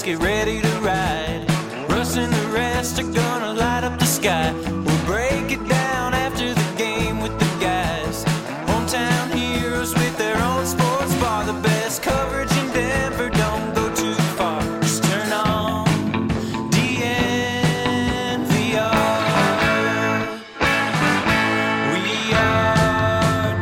get ready to ride. Russ and the rest are gonna light up the sky. We'll break it down after the game with the guys. Hometown heroes with their own sports bar. The best coverage in Denver, don't go too far. Just turn on DNVR. We are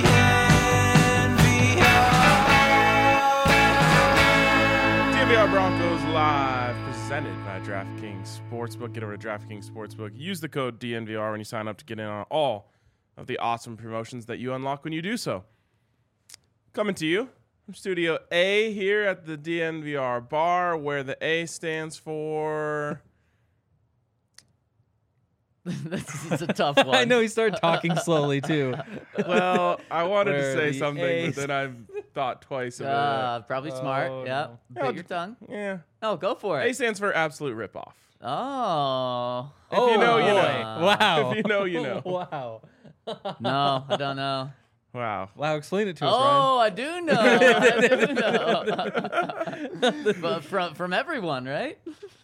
DNVR Broncos Live, presented by DraftKings Sportsbook. Get over to DraftKings Sportsbook. Use the code DNVR when you sign up to get in on all of the awesome promotions that you unlock when you do so. Coming to you from Studio A here at the DNVR bar, where the A stands for... It's a tough one. I know he started talking slowly too. Well, I wanted to Where say the something, A but then I thought twice about Probably smart. Oh, Yep. no. Bit your tongue. it. Yeah. No, go for A it. stands for absolute ripoff. Oh. If you know, you boy. know. Wow. If you know, you know. Wow. No, I don't know. Wow. Wow, explain it to us, Oh, I do know. I do know. But from everyone, right?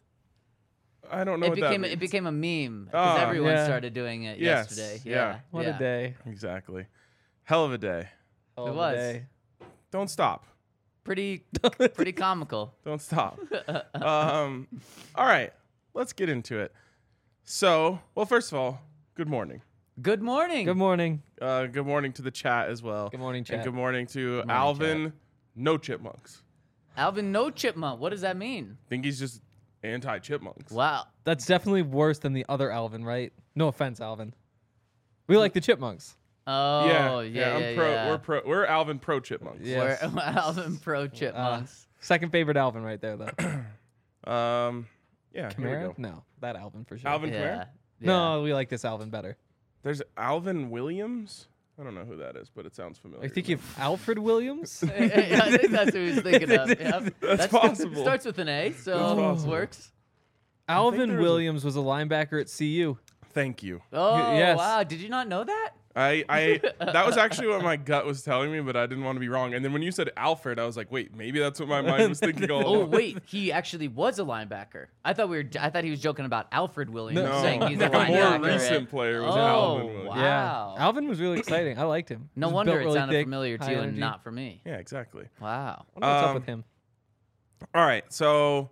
I don't know what that means. It became a meme because Oh, everyone yeah. started doing it Yes, yesterday. yeah. Yeah. Ryan. What yeah. a day. Exactly. Hell of a day. Hell of a was. day. Don't stop. Pretty comical. Don't stop. All right. Let's get into it. So, well, first of all, good morning. Good morning. Good morning. Good morning to the chat as well. Good morning, And chat. good morning to morning, Alvin, no chipmunks. Alvin, no chipmunk. What does that mean? Think he's just anti-chipmunks. Wow. That's definitely worse than the other Alvin, right? No offense, Alvin. We like the chipmunks. Oh, yeah. I'm pro. We're Alvin pro chipmunks. Yeah. Yes. We're Alvin pro chipmunks. Second favorite Alvin right there, though. Yeah. Here we Kamara? go. No, that Alvin for sure. Alvin yeah. Kamara? No, we like this Alvin better. There's Alvin Williams. I don't know who that is, but it sounds familiar. I think you have Alfred Williams. Yeah, I think that's who he's thinking of. Yep. That's possible. Starts with an A, That's so possible. works. Alvin there was a- Williams was a linebacker at CU. Thank you. Oh, yes. wow. Did you not know that? I that was actually what my gut was telling me, but I didn't want to be wrong. And then when you said Alfred, I was like, wait, maybe that's what my mind was thinking all Oh, along. wait. He actually was a linebacker. I thought he was joking about Alfred Williams, No. saying he's like a a linebacker. more recent player was Oh, Alvin Williams. wow. Yeah. Alvin was really exciting. I liked him. No He was wonder built it really sounded thick, familiar to high you and energy. not for me. Yeah, exactly. Wow. I wonder what's up Um, with him. All right, so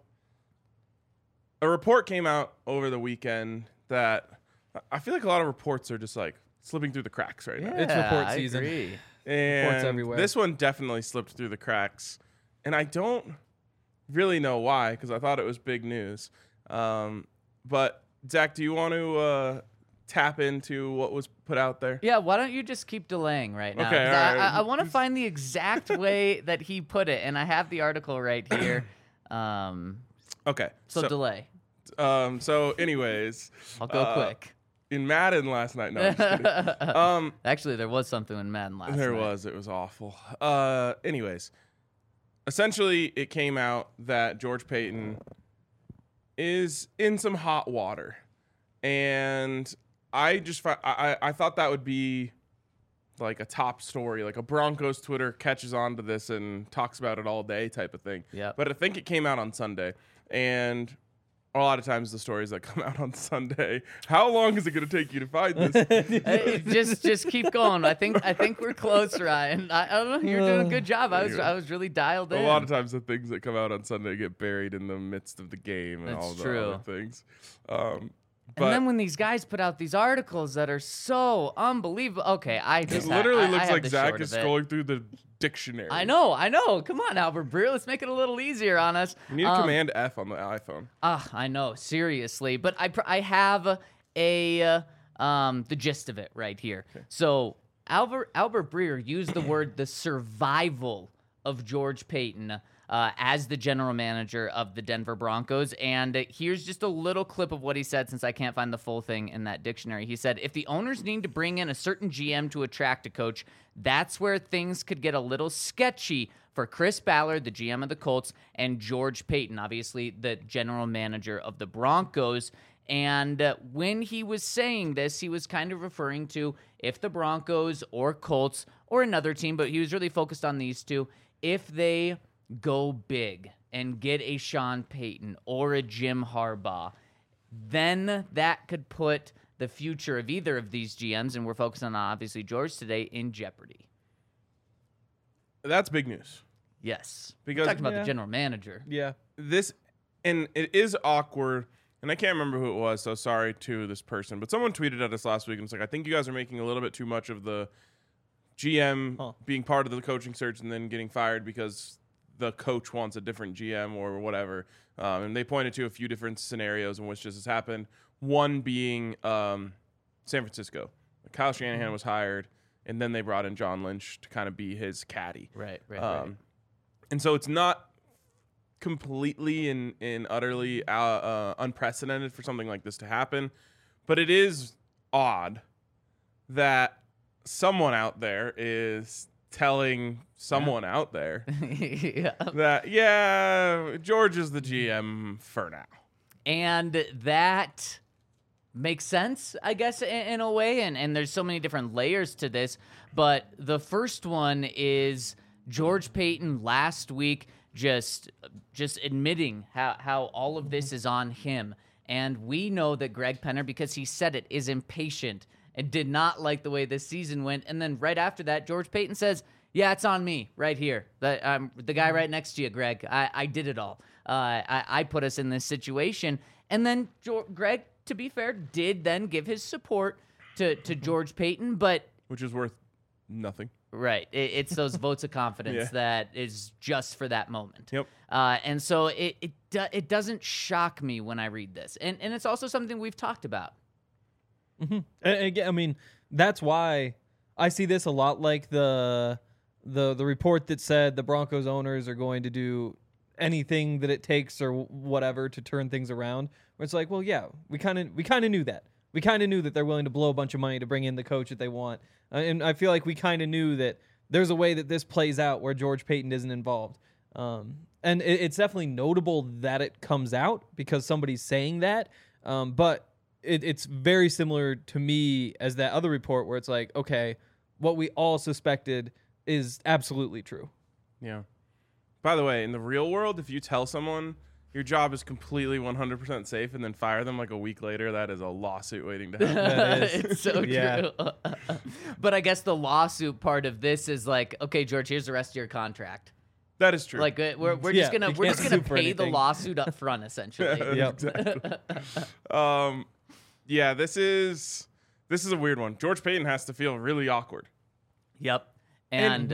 a report came out over the weekend that I feel like a lot of reports are just like slipping through the cracks right now. It's report I season. agree. And everywhere. this one definitely slipped through the cracks, and I don't really know why because I thought it was big news. But Zach, do you want to tap into what was put out there? Yeah, why don't you just keep delaying right now? Okay, 'Cause all right. I want to find the exact way that he put it, and I have the article right here. Okay. So delay. So anyways, I'll go quick. in Madden last night. No, I'm just kidding. Actually, there was something in Madden last There night. was. It was awful. Anyways, essentially, it came out that George Payton is in some hot water, and I just I thought that would be like a top story, like a Broncos Twitter catches on to this and talks about it all day type of thing. Yep. But I think it came out on Sunday, and a lot of times the stories that come out on Sunday. How long is it going to take you to find this? Hey, just keep going. I think we're close, Ryan. I don't know. You're doing a good job. I was really dialed in. A lot of times the things that come out on Sunday get buried in the midst of the game and That's all the true. other things. And then when these guys put out these articles that are so unbelievable. Okay, I it just literally I looks have like the Zach short is of it. scrolling through the dictionary. I know. Come on, Albert Breer. Let's make it a little easier on us. You need a Command F on the iPhone. I know, seriously, but I have the gist of it right here. Okay. So Albert Breer used the word the survival of George Payton as the general manager of the Denver Broncos, and here's just a little clip of what he said since I can't find the full thing in that dictionary. He said, if the owners need to bring in a certain GM to attract a coach, that's where things could get a little sketchy for Chris Ballard, the GM of the Colts, and George Payton, obviously the general manager of the Broncos. And when he was saying this, he was kind of referring to if the Broncos or Colts or another team, but he was really focused on these two, if they go big and get a Sean Payton or a Jim Harbaugh, then that could put the future of either of these GMs, and we're focusing on obviously George today, in jeopardy. That's big news. Yes. Because- we're talking about Yeah. the general manager. Yeah. And it is awkward, and I can't remember who it was, so sorry to this person, but someone tweeted at us last week and was like, I think you guys are making a little bit too much of the GM being part of the coaching search and then getting fired because the coach wants a different GM or whatever. And they pointed to a few different scenarios in which this has happened. One being San Francisco. Kyle Shanahan was hired, and then they brought in John Lynch to kind of be his caddy. Right. And so it's not completely and utterly unprecedented for something like this to happen, but it is odd that someone out there is telling someone out there Yeah. that, George is the GM for now. And that makes sense, I guess, in a way. And there's so many different layers to this. But the first one is George Payton last week just admitting how all of this is on him. And we know that Greg Penner, because he said it, is impatient and did not like the way this season went. And then right after that, George Payton says, yeah, it's on me right here. The guy right next to you, Greg. I did it all. I put us in this situation. And then Greg, to be fair, did then give his support to George Payton. But Which is worth nothing. right, it's those votes of confidence Yeah. that is just for that moment. Yep. And so it doesn't shock me when I read this. And it's also something we've talked about. And again, I mean, that's why I see this a lot like the report that said the Broncos owners are going to do anything that it takes or whatever to turn things around. Where it's like, well, yeah, we kind of knew that. We kind of knew that they're willing to blow a bunch of money to bring in the coach that they want. And I feel like we kind of knew that there's a way that this plays out where George Payton isn't involved. And it's definitely notable that it comes out because somebody's saying that. But it's very similar to me as that other report where it's like, okay, what we all suspected is absolutely true. Yeah. By the way, in the real world, if you tell someone your job is completely 100% safe and then fire them like a week later, that is a lawsuit waiting to happen. That is. It's so Yeah. true. But I guess the lawsuit part of this is like, okay, George, here's the rest of your contract. That is true. Like we're Yeah, just gonna you we're can't just gonna sue for pay the anything. lawsuit up front, essentially. Yep. Exactly. Yeah, this is a weird one. George Payton has to feel really awkward. Yep. And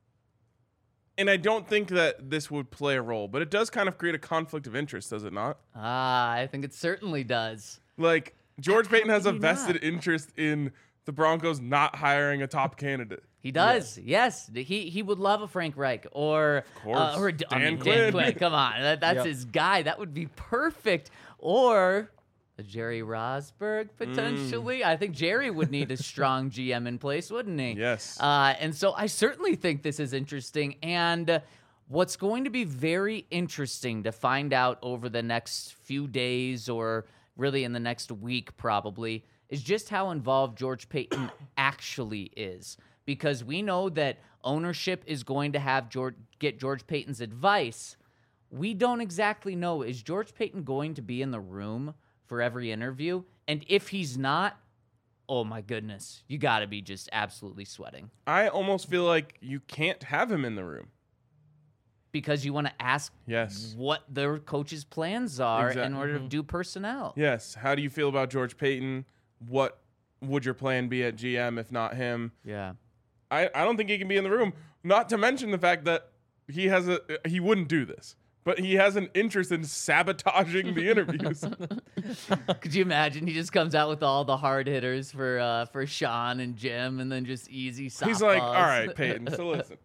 And I don't think that this would play a role, but it does kind of create a conflict of interest, does it not? I think it certainly does. Like, George Payton has a can you vested not? interest in the Broncos not hiring a top candidate. He does. Yes. He would love a Frank Reich or course. Dan Quinn. Quinn. Come on. That's Yep. his guy. That would be perfect. Or a Jerry Rosberg, potentially. I think Jerry would need a strong GM in place, wouldn't he? Yes. And so I certainly think this is interesting. And what's going to be very interesting to find out over the next few days or really in the next week probably is just how involved George Payton actually is. Because we know that ownership is going to get George Payton's advice. We don't exactly know, is George Payton going to be in the room for every interview? And if he's not, oh my goodness, you got to be just absolutely sweating. I almost feel like you can't have him in the room. Because you want to ask Yes. what their coach's plans are in Exactly. order to do personnel. Yes. How do you feel about George Payton? What would your plan be at GM if not him? Yeah. I don't think he can be in the room. Not to mention the fact that he wouldn't do this, but he has an interest in sabotaging the interviews. Could you imagine? He just comes out with all the hard hitters for Sean and Jim, and then just easy softballs. He's like, all right, Peyton, so listen.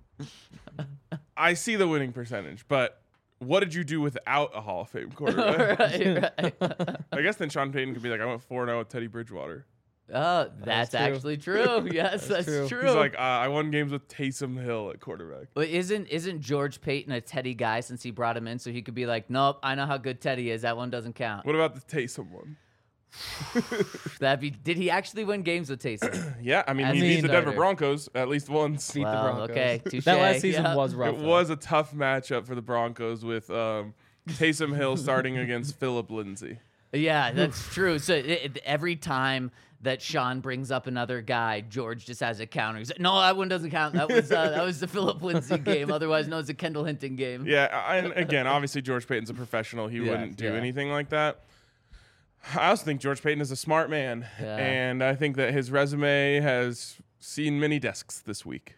I see the winning percentage, but what did you do without a Hall of Fame quarterback? right. I guess then Sean Payton could be like, I went 4-0 with Teddy Bridgewater. Oh, that's true. actually true. Yes, that's true. true. He's like, I won games with Taysom Hill at quarterback. But isn't George Payton a Teddy guy since he brought him in, so he could be like, nope, I know how good Teddy is. That one doesn't count. What about the Taysom one? Did he actually win games with Taysom? Yeah, I mean, As he a beat the Denver starter. Broncos at least once. Beat the Well, Broncos. okay, touche. That last season Yeah. was rough. It though. was a tough matchup for the Broncos with Taysom Hill starting against Philip Lindsay. Yeah, that's true. So every time that Sean brings up another guy, George just has a counter. He's like, no, that one doesn't count. That was the Philip Lindsay game, otherwise known as the Kendall Hinton game. Yeah, and again, obviously George Payton's a professional. He wouldn't do yeah. anything like that. I also think George Payton is a smart man, Yeah. and I think that his resume has seen many desks this week,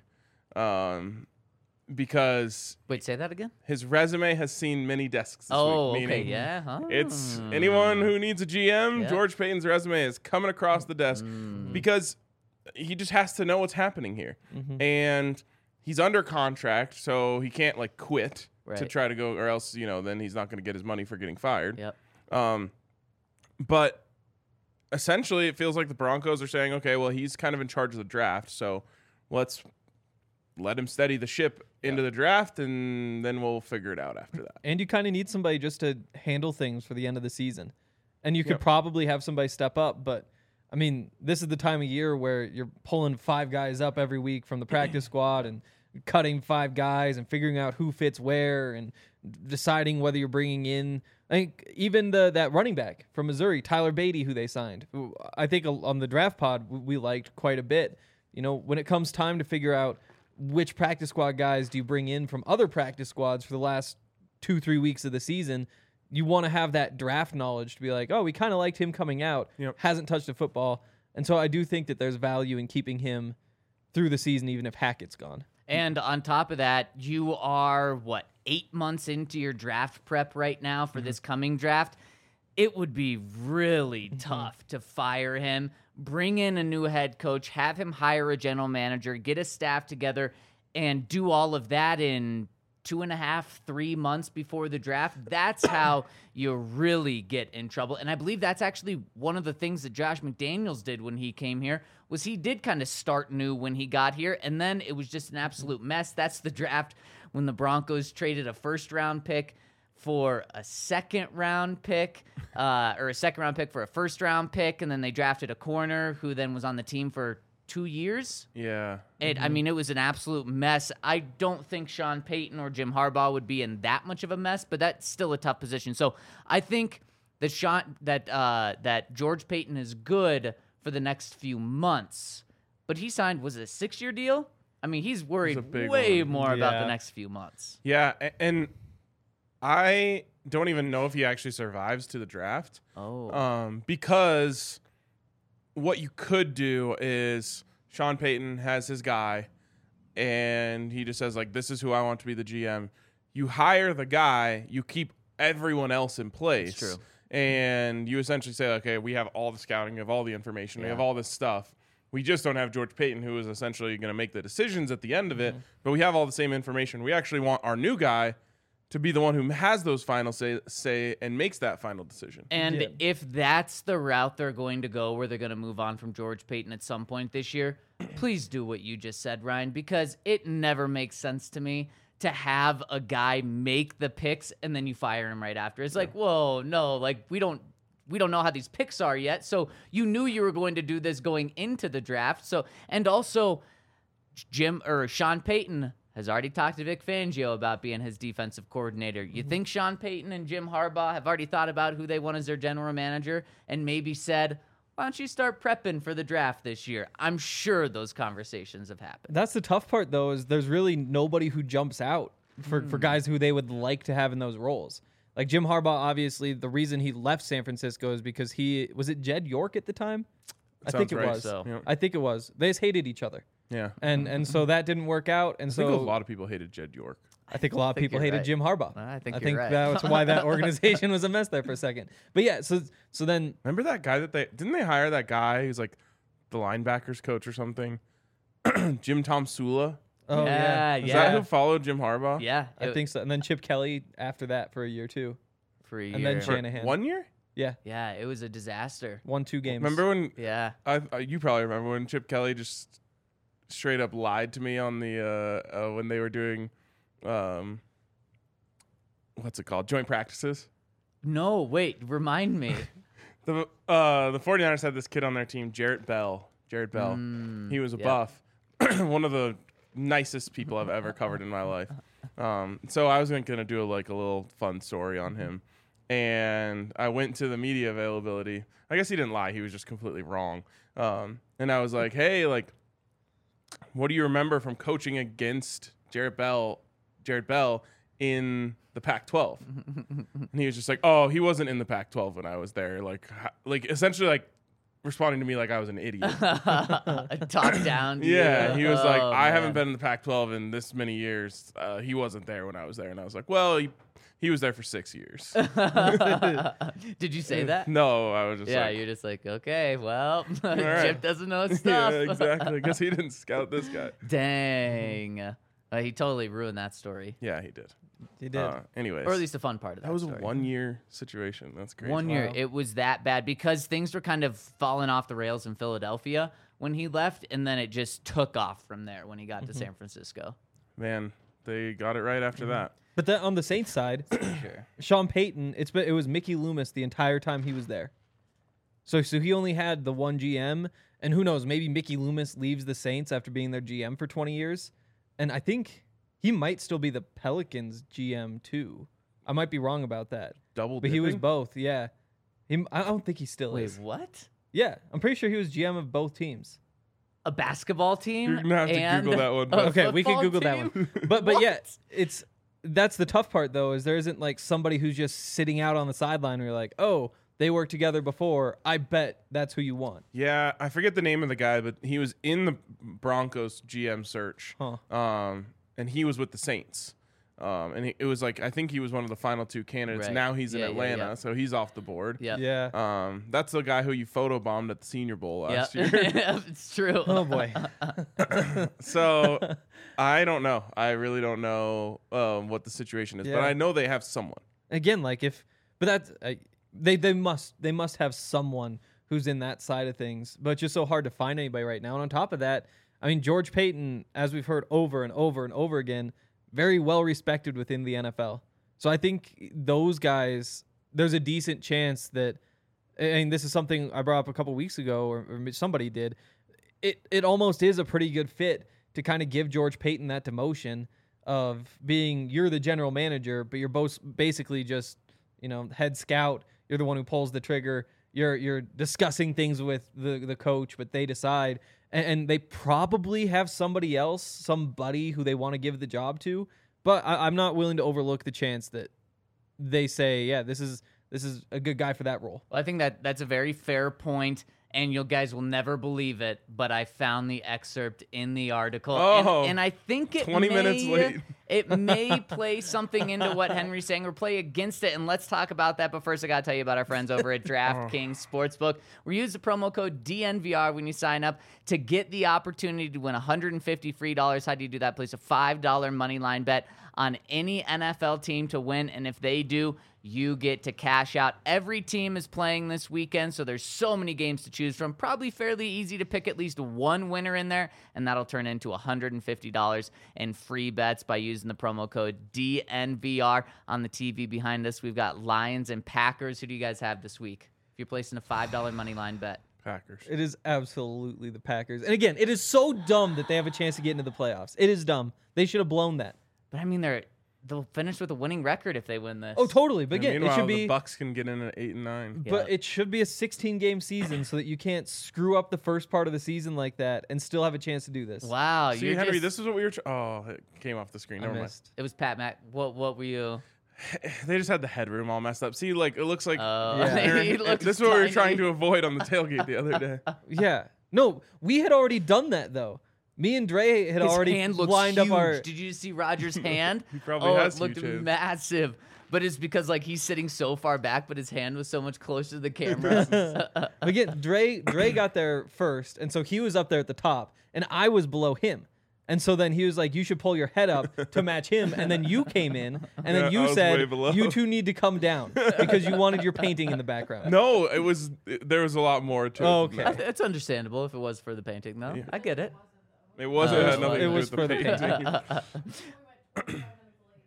because Wait, say that again? his resume has seen many desks this Oh, week. okay, Meaning yeah. Huh? it's anyone who needs a GM, Yeah. George Payton's resume is coming across the desk because he just has to know what's happening here. And he's under contract, so he can't like quit to Right. try to go, or else, then he's not going to get his money for getting fired. Yep. But essentially, it feels like the Broncos are saying, okay, well, he's kind of in charge of the draft, so let's let him steady the ship into the draft, and then we'll figure it out after that. And you kind of need somebody just to handle things for the end of the season. And you could Yep. probably have somebody step up, but I mean, this is the time of year where you're pulling 5 guys up every week from the practice squad and cutting 5 guys and figuring out who fits where and deciding whether you're bringing in. I think even that running back from Missouri, Tyler Beatty, who they signed, who I think on the draft pod we liked quite a bit. When it comes time to figure out which practice squad guys do you bring in from other practice squads for the last 2-3 weeks of the season, you want to have that draft knowledge to be like, oh, we kind of liked him coming out, Yep. hasn't touched a football. And so I do think that there's value in keeping him through the season, even if Hackett's gone. And on top of that, you are, 8 months into your draft prep right now for this coming draft. It would be really tough to fire him, bring in a new head coach, have him hire a general manager, get a staff together, and do all of that in 2.5, 3 months before the draft. That's how you really get in trouble. And I believe that's actually one of the things that Josh McDaniels did when he came here, was he did kind of start new when he got here, and then it was just an absolute mess. That's the draft when the Broncos traded a first-round pick for a second-round pick, or a second-round pick for a first-round pick, and then they drafted a corner who then was on the team for 2 years. Yeah. I mean, it was an absolute mess. I don't think Sean Payton or Jim Harbaugh would be in that much of a mess, but that's still a tough position. So I think that that George Payton is good for the next few months, but he signed, was it a 6-year deal? I mean, he's worried a big way one. more about Yeah. the next few months. Yeah, and I don't even know if he actually survives to the draft. Oh, Because what you could do is Sean Payton has his guy, and he just says, like, this is who I want to be the GM. You hire the guy, you keep everyone else in place. That's true. And you essentially say, okay, we have all the scouting, we have all the information, we have all this stuff. We just don't have George Payton, who is essentially going to make the decisions at the end of it, but we have all the same information. We actually want our new guy to be the one who has those final say and makes that final decision. and Yeah. if that's the route they're going to go, where they're going to move on from George Payton at some point this year, please do what you just said, Ryan, because it never makes sense to me to have a guy make the picks and then you fire him right after. It's like, whoa, no, like we don't know how these picks are yet. So you knew you were going to do this going into the draft. So, and also Sean Payton has already talked to Vic Fangio about being his defensive coordinator. You think Sean Payton and Jim Harbaugh have already thought about who they want as their general manager and maybe said, why don't you start prepping for the draft this year? I'm sure those conversations have happened. That's the tough part, though, is there's really nobody who jumps out for guys who they would like to have in those roles. Like Jim Harbaugh, obviously, the reason he left San Francisco is because was it Jed York at the time? I think Sounds it right. was. So. Yeah. I think it was. They just hated each other. Yeah. And so that didn't work out. And I think a so lot of people hated Jed York. I think a lot of think people you're hated right. Jim Harbaugh. I think you're think right. that's why that organization was a mess there for a second. But yeah, so then Remember that guy that didn't they hire that guy who's like the linebackers coach or something? Jim Tom Sula. oh yeah, Is yeah. that who followed Jim Harbaugh? Yeah, I think so. And then Chip Kelly after that for a year too. for a year. And then For Shanahan. 1 year? Yeah, Yeah, it was a disaster. 1-2 games. Remember when Yeah. you probably remember when Chip Kelly just straight up lied to me on the when they were doing what's it called? Joint practices. No, wait, remind me. The 49ers had this kid on their team, Jarrett Bell. Jared Bell. He was a buff. One of the nicest people I've ever covered in my life. So I was going to do a little fun story on him. And I went to the media availability. I guess he didn't lie. He was just completely wrong. And I was like, hey, what do you remember from coaching against Jared Bell in the Pac-12? And he was just like, oh, he wasn't in the Pac-12 when I was there. Essentially responding to me like I was an idiot. Talk down to Yeah, you. he was like, Oh, I haven't man. been in the Pac-12 in this many years. He wasn't there when I was there. And I was like, well, he was there for 6 years. Did you say that? No, I was just Yeah, like, you're just like, okay, well, right. Chip doesn't know his yeah, stuff. exactly. Because he didn't scout this guy. Dang. He totally ruined that story. Yeah, he did. He did. Anyways, Or at least the fun part of that that was story. a 1 year situation. That's great. 1 year. Wow. It was that bad because things were kind of falling off the rails in Philadelphia when he left, and then it just took off from there when he got to San Francisco. Man, they got it right after that. But then on the Saints side, Sure. Sean Payton, it was Mickey Loomis the entire time he was there. So he only had the one GM, and who knows, maybe Mickey Loomis leaves the Saints after being their GM for 20 years. And I think he might still be the Pelicans GM too. I might be wrong about that. Double But he was dipping? both, yeah. I don't think he still Wait, is. what? Yeah, I'm pretty sure he was GM of both teams. A basketball team? You're gonna have to and Google that one, a but- Okay, we can football Google that team? one. But yeah, What? that's the tough part though, is there isn't somebody who's just sitting out on the sideline where you're like, oh, they worked together before. I bet that's who you want. Yeah, I forget the name of the guy, but he was in the Broncos GM search. Huh. And he was with the Saints. And it was I think he was one of the final two candidates. Right. Now he's in Yeah, yeah, Atlanta, yeah. so he's off the board. Yep. Yeah. That's the guy who you photobombed at the Senior Bowl last Yep. year. It's true. Oh boy. So I don't know. I really don't know what the situation is, but Yeah. I know they have someone. Again, they must have someone who's in that side of things, but it's just so hard to find anybody right now. And on top of that, I mean, George Payton, as we've heard over and over and over again, very well respected within the NFL. So I think those guys, there's a decent chance that, and this is something I brought up a couple weeks ago, or somebody did. It almost is a pretty good fit to kind of give George Payton that demotion of being, you're the general manager, but you're both basically just, head scout. You're the one who pulls the trigger. You're discussing things with the coach, but they decide. And they probably have somebody else, somebody who they want to give the job to. But I'm not willing to overlook the chance that they say, yeah, this is a good guy for that role. Well, I think that's a very fair point, and you guys will never believe it, but I found the excerpt in the article, Oh, and I think it 20 minutes late. It may play something into what Henry's saying or play against it, and let's talk about that. But first, I got to tell you about our friends over at DraftKings Sportsbook. We use the promo code DNVR when you sign up to get the opportunity to win $150 free. How do you do that? Place a $5 money line bet on any NFL team to win, and if they do, you get to cash out. Every team is playing this weekend, so there's so many games to choose from. Probably fairly easy to pick at least one winner in there, and that'll turn into $150 in free bets by using the promo code DNVR. On the TV behind us, we've got Lions and Packers. Who do you guys have this week if you're placing a $5 money line bet? Packers. It is absolutely the Packers. And again, it is so dumb that they have a chance to get into the playoffs. It is dumb. They should have blown that. But I mean, they'll finish with a winning record if they win this. Oh, totally. But And again, it meanwhile, should the be. Bucks can get in at 8 and 9. But Yeah. it should be a 16-game season so that you can't screw up the first part of the season like that and still have a chance to do this. Wow, See, you're Henry, just, this is what we were. It came off the screen. I Never mind. missed. It was Pat Mac. What were you? They just had the headroom all messed up. See, it looks like Yeah. He looks this is what we were tiny. trying to avoid on the tailgate the other day. Yeah. No, we had already done that though. Me and Dre had His already hand looks lined huge. up our. Did you see Roger's hand? He probably oh, has it looked huge hands. massive. But it's because he's sitting so far back, but his hand was so much closer to the camera. Again, Dre got there first, and so he was up there at the top, and I was below him. And so then he was like, you should pull your head up to match him. And then you came in, and Yeah, then I you was way said, below. you two need to come down because you wanted your painting in the background. No, there was a lot more to it. Oh, than okay. that. It's understandable if it was for the painting, though. Yeah. I get it. It wasn't. Oh, It had nothing it to do was with for the the painting.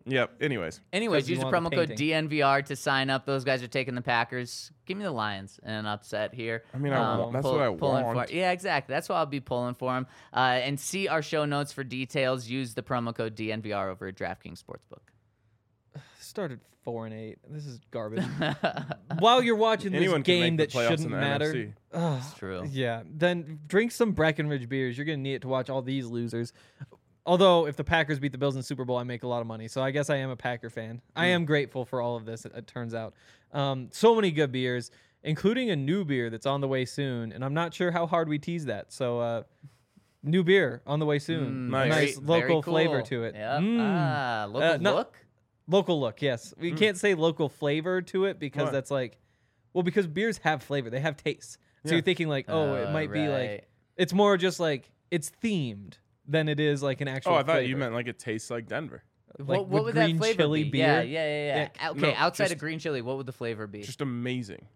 Yep. Anyways, Anyways, 'Cause you use the want promo the code painting. DNVR to sign up. Those guys are taking the Packers. Give me the Lions in an upset here. I mean, that's what I pulling want. Yeah, exactly. That's what I'll be pulling for them. And see our show notes for details. Use the promo code DNVR over at DraftKings Sportsbook. Started 4-8. This is garbage. While you're watching Anyone this can game make the that playoffs shouldn't in the matter, NFC. That's true. yeah, then drink some Breckenridge beers. You're gonna need it to watch all these losers. Although, if the Packers beat the Bills in the Super Bowl, I make a lot of money. So I guess I am a Packer fan. I am grateful for all of this, it turns out. So many good beers, including a new beer that's on the way soon. And I'm not sure how hard we tease that. So, new beer on the way soon. Nice. Very local cool. flavor to it. Yep. Mm. Local no- look? Local look, yes. We can't say local flavor to it because Why? that's like, well, because beers have flavor. They have taste. So Yeah. you're thinking like, oh, it might be like, right. it's more just like, it's themed than it is like an actual Oh, I thought flavor. you meant like it tastes like Denver. Like What with would that green flavor chili be? beer. Yeah. Yeah, Okay, no, outside just- of green chili, what would the flavor be? Just amazing.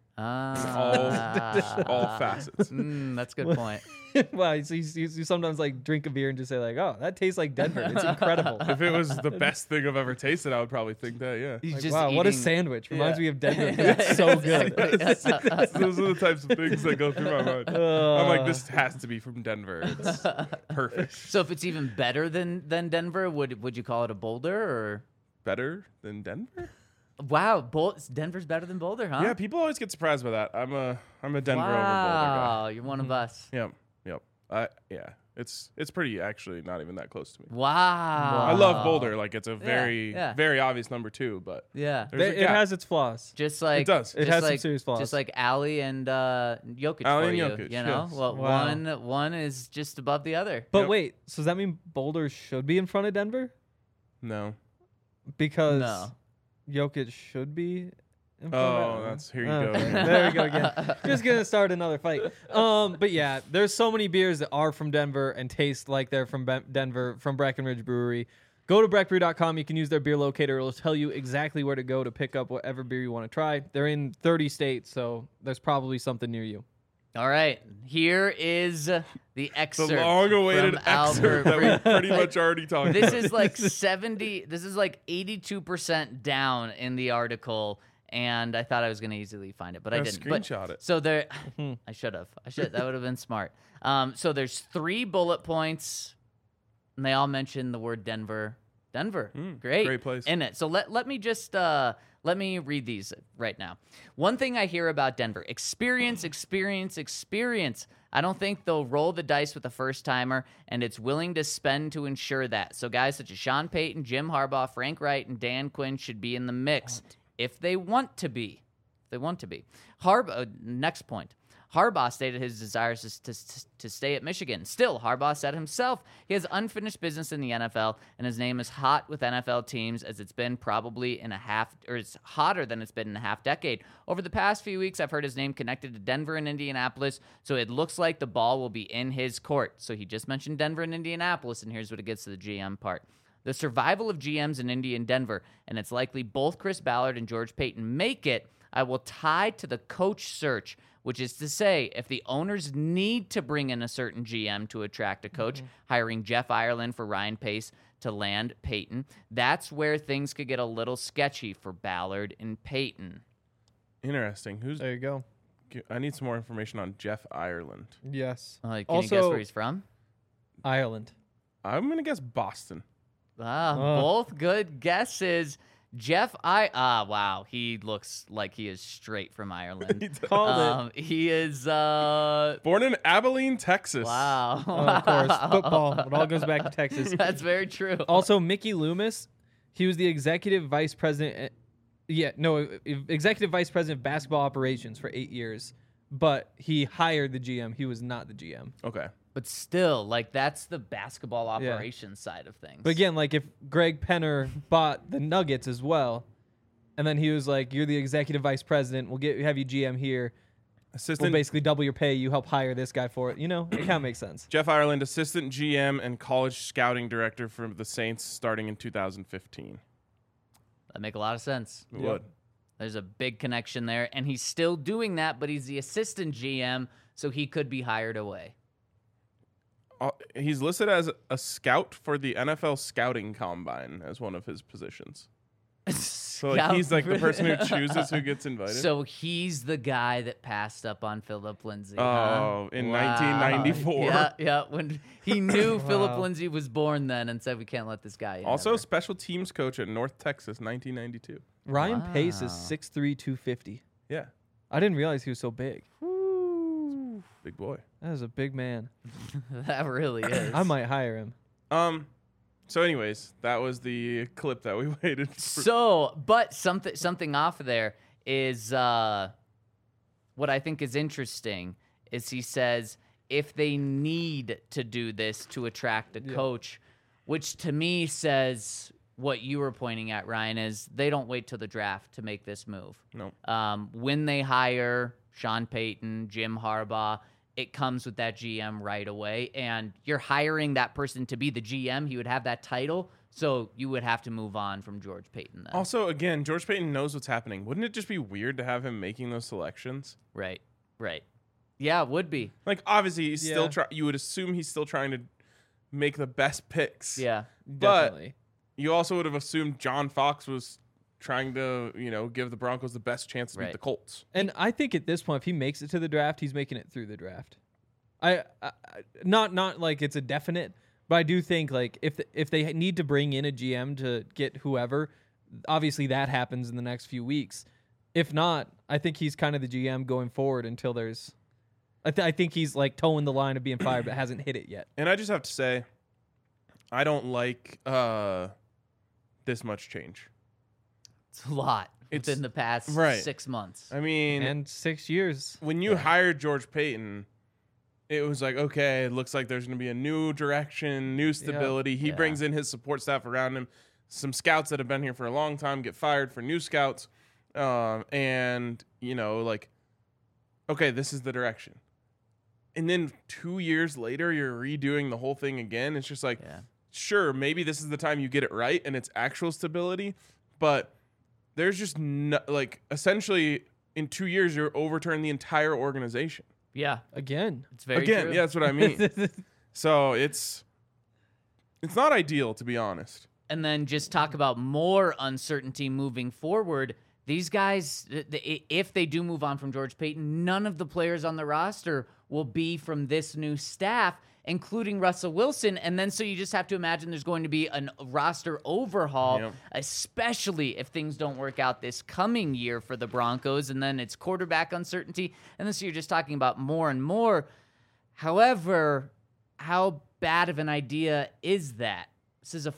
Ah. All facets. That's a good point. Wow, so you sometimes like drink a beer and just say like, oh, that tastes like Denver. It's incredible. If it was the best thing I've ever tasted, I would probably think that. Yeah. He's Like, just wow, what a eating- sandwich. Reminds Yeah. me of Denver. 'cause it's so good. Those are the types of things that go through my mind. I'm like, this has to be from Denver. It's perfect. So if it's even better than Denver, would you call it a Boulder or? Better than Denver? Wow, Denver's better than Boulder, huh? Yeah, people always get surprised by that. I'm a Denver over Boulder Wow, guy. you're one of us. Yep. Yeah. It's pretty actually not even that close to me. Wow. I love Boulder. Like it's a yeah. very obvious number 2, but Yeah. there's a It gap. has its flaws. Just like does. It just has some like, serious flaws. Just like Ali and Jokic Ali for and you, Jokic, you know. yes. Well, Wow. one is just above the other. But Yep. wait, so does that mean Boulder should be in front of Denver? No. Because No. Jokic should be in front Oh, of that's here you Oh, go. okay. again. There we go again. Just gonna start another fight. But yeah, there's so many beers that are from Denver and taste like they're from Denver from Breckenridge Brewery. Go to breckbrew.com. You can use their beer locator. It'll tell you exactly where to go to pick up whatever beer you want to try. They're in 30 states, so there's probably something near you. All right, here is the The excerpt. long-awaited from Albert excerpt that we Breer. pretty much already talked This about. is like 70. This is like 82% down in the article, and I thought I was going to easily find it, but I Yeah, didn't. But- screenshot it. So there, I should have. That would have been smart. So there's 3 bullet points, and they all mention the word Denver. Denver, great place. in it. So let me just let me read these right now. One thing I hear about Denver: experience. I don't think they'll roll the dice with a first timer, and it's willing to spend to ensure that. So guys such as Sean Payton, Jim Harbaugh, Frank Wright, and Dan Quinn should be in the mix if they want to be. Next point. Harbaugh stated his desires to stay at Michigan. Still, Harbaugh said himself he has unfinished business in the NFL, and his name is hot with NFL teams as it's been probably it's hotter than it's been in a half decade. Over the past few weeks, I've heard his name connected to Denver and Indianapolis, so it looks like the ball will be in his court. So he just mentioned Denver and Indianapolis, and here's what it gets to the GM part. The survival of GMs in Indy and Denver, and it's likely both Chris Ballard and George Payton make it, I will tie to the coach search, which is to say, if the owners need to bring in a certain GM to attract a coach, hiring Jeff Ireland for Ryan Pace to land Payton, that's where things could get a little sketchy for Ballard and Payton. Interesting. There you go. I need some more information on Jeff Ireland. Yes. Can you Also- guess where he's from? Ireland. I'm gonna guess Boston. Both good guesses. Wow, he looks like he is straight from Ireland. Called it. He is, Born in Abilene, Texas. wow. Of course, football. It all goes back to Texas. That's very true. Also, Mickey Loomis, he was the executive vice president. Executive vice president of basketball operations for 8 years, but he hired the GM. He was not the GM. Okay. But still, like, that's the basketball operations side of things. But again, like if Greg Penner bought the Nuggets as well, and then he was like, "You're the executive vice president. We'll have you GM here. We'll Assistant basically double your pay. You help hire this guy for it." You know, it kind of makes sense. Jeff Ireland, assistant GM and college scouting director for the Saints, starting in 2015. that make a lot of sense. It would. There's a big connection there, and he's still doing that, but he's the assistant GM, so he could be hired away. he's listed as a scout for the NFL scouting combine as one of his positions. So like, he's like the person who chooses who gets invited. So he's the guy that passed up on Philip Lindsay. Oh, in 1994. Yeah, when he knew Philip Lindsay was born then and said we can't let this guy in. Also, ever. special teams coach at North Texas, 1992. Ryan Pace is Wow. 6'3", 250. Yeah, I didn't realize he was so big. big boy. That is a big man. That really is. I might hire him. So, anyways, that was the clip that we waited for. So, but something off there is what I think is interesting is he says if they need to do this to attract a coach, which to me says what you were pointing at, Ryan, is they don't wait till the draft to make this move. No. When they hire Sean Payton, Jim Harbaugh, it comes with that GM right away, and you're hiring that person to be the GM. He would have that title, so you would have to move on from George Payton then. Also, again, George Payton knows what's happening. Wouldn't it just be weird to have him making those selections? Right. Yeah, it would be. Like, obviously, he's still Yeah. you would assume he's still trying to make the best picks. Yeah. But Definitely. you also would have assumed John Fox was trying to, give the Broncos the best chance to beat Right. the Colts. And I think at this point, if he makes it to the draft, he's making it through the draft. I not like it's a definite, but I do think like if they need to bring in a GM to get whoever, obviously that happens in the next few weeks. If not, I think he's kind of the GM going forward until there's. I think he's like towing the line of being fired, but hasn't hit it yet. And I just have to say, I don't like this much change. It's a lot It's- within the past right. 6 months. I mean, And 6 years. when you hired George Payton, it was like, okay, it looks like there's going to be a new direction, new stability. He Yeah. brings in his support staff around him. Some scouts that have been here for a long time get fired for new scouts. And, okay, this is the direction. And then 2 years later, you're redoing the whole thing again. It's just like, Yeah. sure, maybe this is the time you get it right and it's actual stability. But there's just, essentially, in 2 years, you're overturning the entire organization. Yeah. Again. It's very Again, true. yeah, that's what I mean. So it's not ideal, to be honest. And then just talk about more uncertainty moving forward. These guys, if they do move on from George Payton, none of the players on the roster will be from this new staff, including Russell Wilson. And then so you just have to imagine there's going to be a roster overhaul, Yep. especially if things don't work out this coming year for the Broncos. And then it's quarterback uncertainty. And then so you're just talking about more and more. However, how bad of an idea is that? This is a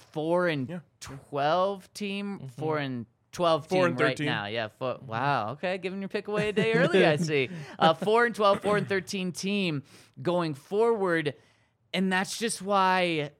4-12 team, 4-12 team 4-13. right now. Yeah. Wow. Okay. Giving your pick away a day early, I see. 4-12, 4-13 team going forward. And that's just why,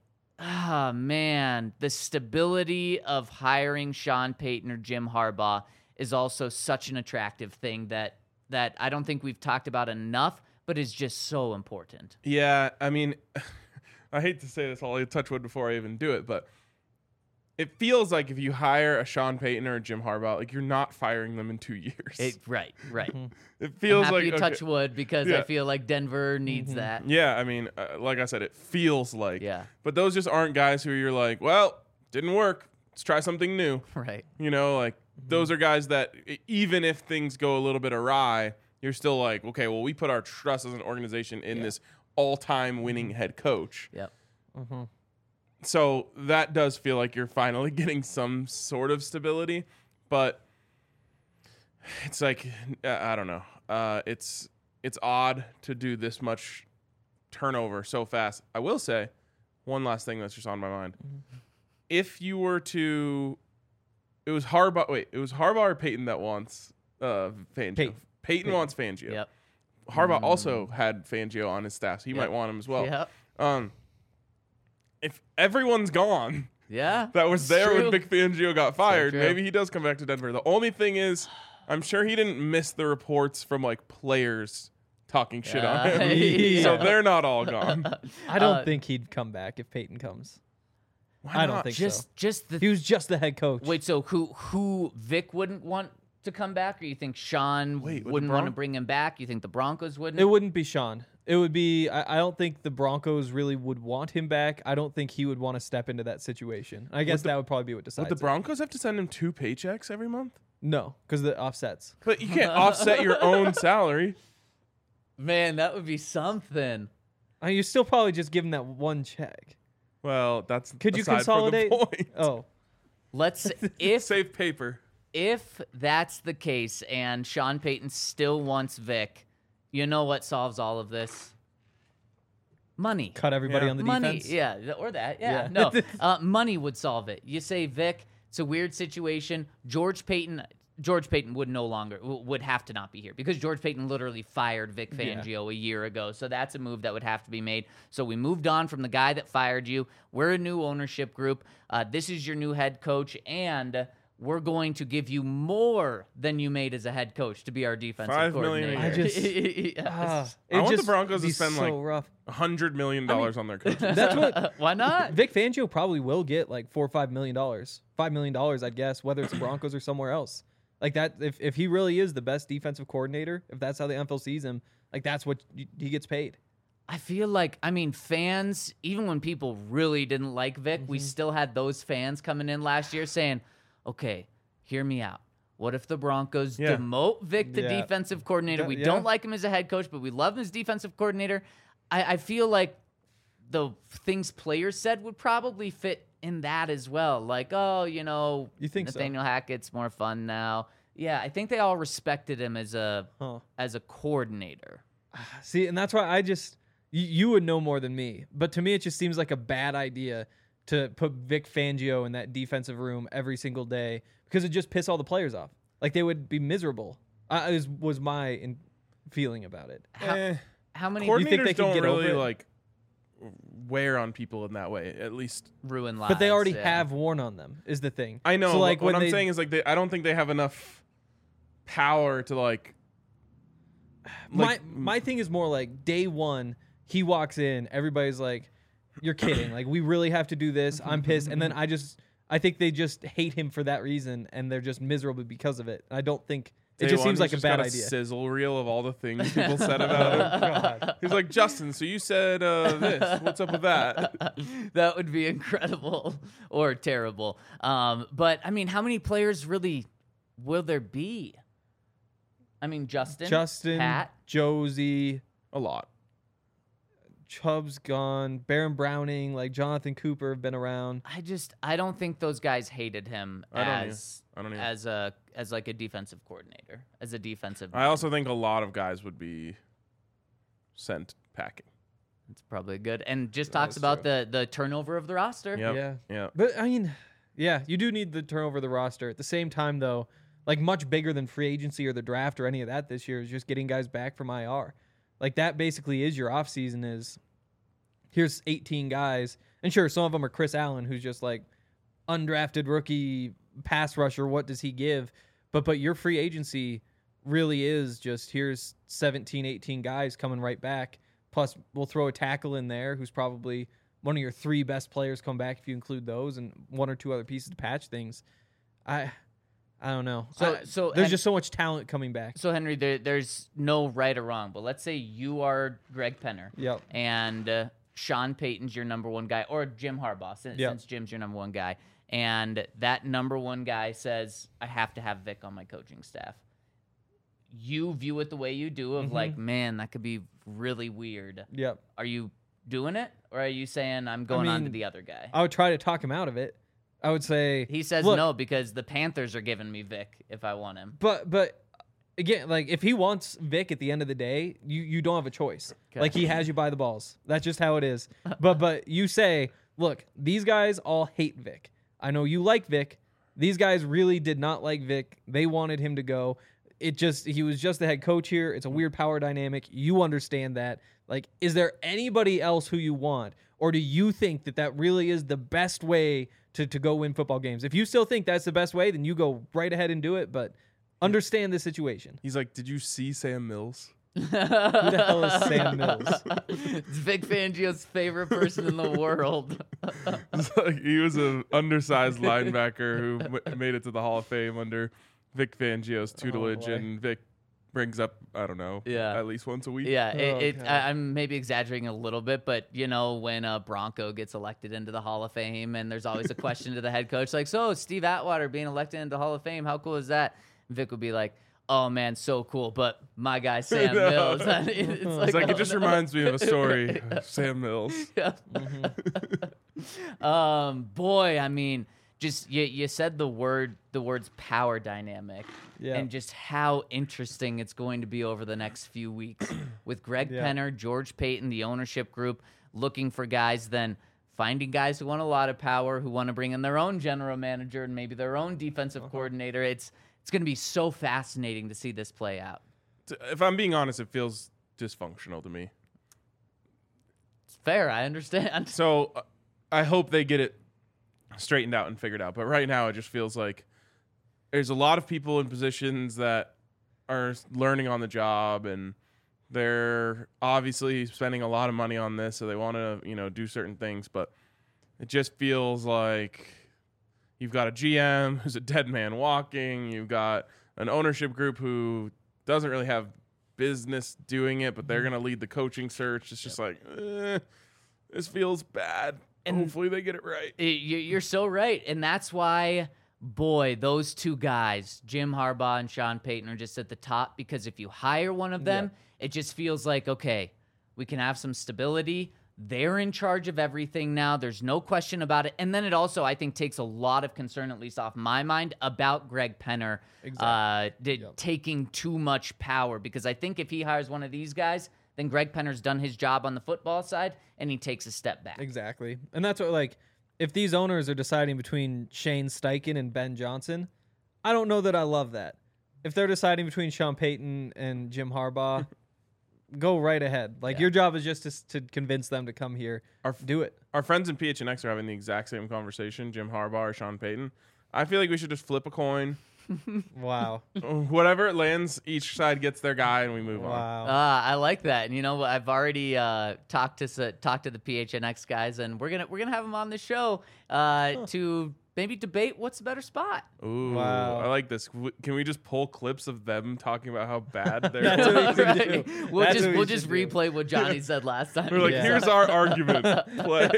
the stability of hiring Sean Payton or Jim Harbaugh is also such an attractive thing that I don't think we've talked about enough, but is just so important. Yeah, I mean, I hate to say this, I'll touch wood before I even do it, but it feels like if you hire a Sean Payton or a Jim Harbaugh, like you're not firing them in 2 years. Right. It feels I'm happy like you touch wood because I Yeah. feel like Denver needs that. Yeah, I mean, like I said, it feels like. Yeah. But those just aren't guys who you're like, well, didn't work. Let's try something new. Right. Those are guys that even if things go a little bit awry, you're still like, okay, well, we put our trust as an organization in this all-time winning head coach. Yep. So that does feel like you're finally getting some sort of stability, but it's like, I don't know. It's odd to do this much turnover so fast. I will say one last thing that's just on my mind. If you were to, it was Harbaugh or Payton that wants Fangio. Payton wants Fangio. Yep. Harbaugh also had Fangio on his staff, so he might want him as well. Yep. If everyone's gone Yeah. that was it's there true. when Vic Fangio got fired, true. maybe he does come back to Denver. The only thing is, I'm sure he didn't miss the reports from like players talking shit on him. Yeah. So they're not all gone. I don't think he'd come back if Peyton comes. Why I don't not? think so. Just He the was just the head coach. wait. So who Vic wouldn't want to come back, or you think Sean Wait, with the wouldn't want to Bron- bring him back? You think the Broncos wouldn't? It wouldn't be Sean. It would be. I don't think the Broncos really would want him back. I don't think he would want to step into that situation. I guess that would probably be what decides. Would the it. Broncos have to send him 2 paychecks every month? No, because the offsets. But you can't offset your own salary. Man, that would be something. You still probably just give him that one check. Well, that's Could you aside consolidate? from the point. Oh, Let's if Save paper. if that's the case and Sean Payton still wants Vic, you know what solves all of this? Money. cut everybody Yeah. on the Money, defense. yeah, or that, yeah. Yeah. No, money would solve it. You say, Vic, it's a weird situation. George Payton would have to not be here because George Payton literally fired Vic Fangio a year ago. So that's a move that would have to be made. So we moved on from the guy that fired you. We're a new ownership group. This is your new head coach, and we're going to give you more than you made as a head coach to be our defensive $5 million coordinator. a year. Yes. I want the just Broncos to be spend so like rough. $100 million on their coaches. That's what Why not? Vic Fangio probably will get, like $4 or $5 million. $5 million, I'd guess, whether it's the Broncos or somewhere else. Like that, if he really is the best defensive coordinator, if that's how the NFL sees him, like that's what he gets paid. I feel like, fans, even when people really didn't like Vic, we still had those fans coming in last year saying, okay, hear me out. What if the Broncos Yeah. demote Vic to Yeah. defensive coordinator? We Yeah. don't like him as a head coach, but we love him as defensive coordinator. I feel like the things players said would probably fit in that as well. Like, oh, You think so? Nathaniel Hackett's more fun now. Yeah, I think they all respected him as a coordinator. See, and that's why you would know more than me. But to me, it just seems like a bad idea to put Vic Fangio in that defensive room every single day because it just piss all the players off. Like they would be miserable. Was my feeling about it. How many You think Coordinators they can don't get over really it? like wear on people in that way. At least ruin lives? But they already yeah. have worn on them. Is the thing. I know. So like what when I'm saying is like I don't think they have enough power to like. My thing is more like day one, he walks in, everybody's like, "You're kidding! Like we really have to do this." I'm pissed, and then I think they just hate him for that reason, and they're just miserable because of it. I don't think it Day just one, seems like he's a bad got idea. Sizzle reel of all the things people said about him. He's like, Justin, so you said this. What's up with that? That would be incredible or terrible. But how many players really will there be? Justin, Pat, Josie, A lot. Chubb's gone, Baron Browning, like Jonathan Cooper have been around. I don't think those guys hated him I don't as like a defensive coordinator, as a defensive. I also think a lot of guys would be sent packing. It's probably good, and just talks about the turnover of the roster. Yep. Yeah. But yeah, you do need the turnover of the roster. At the same time, though, like much bigger than free agency or the draft or any of that this year is just getting guys back from IR. Like that basically is your offseason is here's 18 guys. And sure, some of them are Chris Allen, who's just like undrafted rookie pass rusher. What does he give? But your free agency really is just here's 17, 18 guys coming right back. Plus we'll throw a tackle in there who's probably one of your 3 best players come back if you include those and 1 or 2 other pieces to patch things. I don't know. So there's just so much talent coming back. So Henry, there's no right or wrong, but let's say you are Greg Penner, Yep. and Sean Payton's your number 1 guy, or Jim Harbaugh, since Jim's your number 1 guy, and that number 1 guy says, I have to have Vic on my coaching staff. You view it the way you do of like, man, that could be really weird. Yep. Are you doing it, or are you saying I'm going on to the other guy? I would try to talk him out of it. I would say He says look, no because the Panthers are giving me Vic if I want him. But again, like if he wants Vic at the end of the day, you don't have a choice. Okay. Like he has you by the balls. That's just how it is. But you say, look, these guys all hate Vic. I know you like Vic. These guys really did not like Vic. They wanted him to go. He was just the head coach here. It's a weird power dynamic. You understand that. Like, is there anybody else who you want? Or do you think that really is the best way to go win football games? If you still think that's the best way, then you go right ahead and do it. But understand the situation. He's like, did you see Sam Mills? Who the hell is Sam Mills? It's Vic Fangio's favorite person in the world. It's like he was an undersized linebacker who made it to the Hall of Fame under Vic Fangio's tutelage, boy. and Vic brings up, I don't know, Yeah. at least once a week. Yeah, God. I'm maybe exaggerating a little bit, but when a Bronco gets elected into the Hall of Fame, and there's always a question to the head coach, like, so Steve Atwater being elected into the Hall of Fame, how cool is that? And Vic would be like, oh man, so cool, but my guy Sam No. Mills. it's It oh, just no. reminds me of a story of Sam Mills. Yeah. Boy, I mean, just you said the words power dynamic, Yeah. and just how interesting it's going to be over the next few weeks with Greg Yeah. Penner, George Payton, the ownership group looking for guys, then finding guys who want a lot of power, who want to bring in their own general manager and maybe their own defensive coordinator. It's going to be so fascinating to see this play out. If I'm being honest, it feels dysfunctional to me. It's fair, I understand. So I hope they get it straightened out and figured out. But right now, it just feels like there's a lot of people in positions that are learning on the job, and they're obviously spending a lot of money on this, so they want to, do certain things. But it just feels like you've got a GM who's a dead man walking. You've got an ownership group who doesn't really have business doing it, but they're going to lead the coaching search. It's just like, this feels bad. And hopefully they get it right. You're so right. And that's why, boy, those two guys, Jim Harbaugh and Sean Payton, are just at the top, because if you hire one of them, it just feels like, okay, we can have some stability. They're in charge of everything now. There's no question about it. And then it also, I think, takes a lot of concern, at least off my mind, about Greg Penner taking too much power. Because I think if he hires one of these guys, then Greg Penner's done his job on the football side, and he takes a step back. Exactly. And that's what, like, if these owners are deciding between Shane Steichen and Ben Johnson, I don't know that I love that. If they're deciding between Sean Payton and Jim Harbaugh, go right ahead. Like, your job is just to convince them to come here. Do it. Our friends in PHNX are having the exact same conversation, Jim Harbaugh or Sean Payton. I feel like we should just flip a coin. Wow. Whatever it lands, each side gets their guy, and we move on. Wow. I like that. And I've already talked to the PHNX guys, and we're gonna have them on the show to maybe debate what's the better spot. Ooh, Wow. I like this. Can we just pull clips of them talking about how bad they're? That's what we should Right. do. We'll That's just what we we'll just should do. replay what Johnny said last time. We're like, Yeah. here's our argument. Play.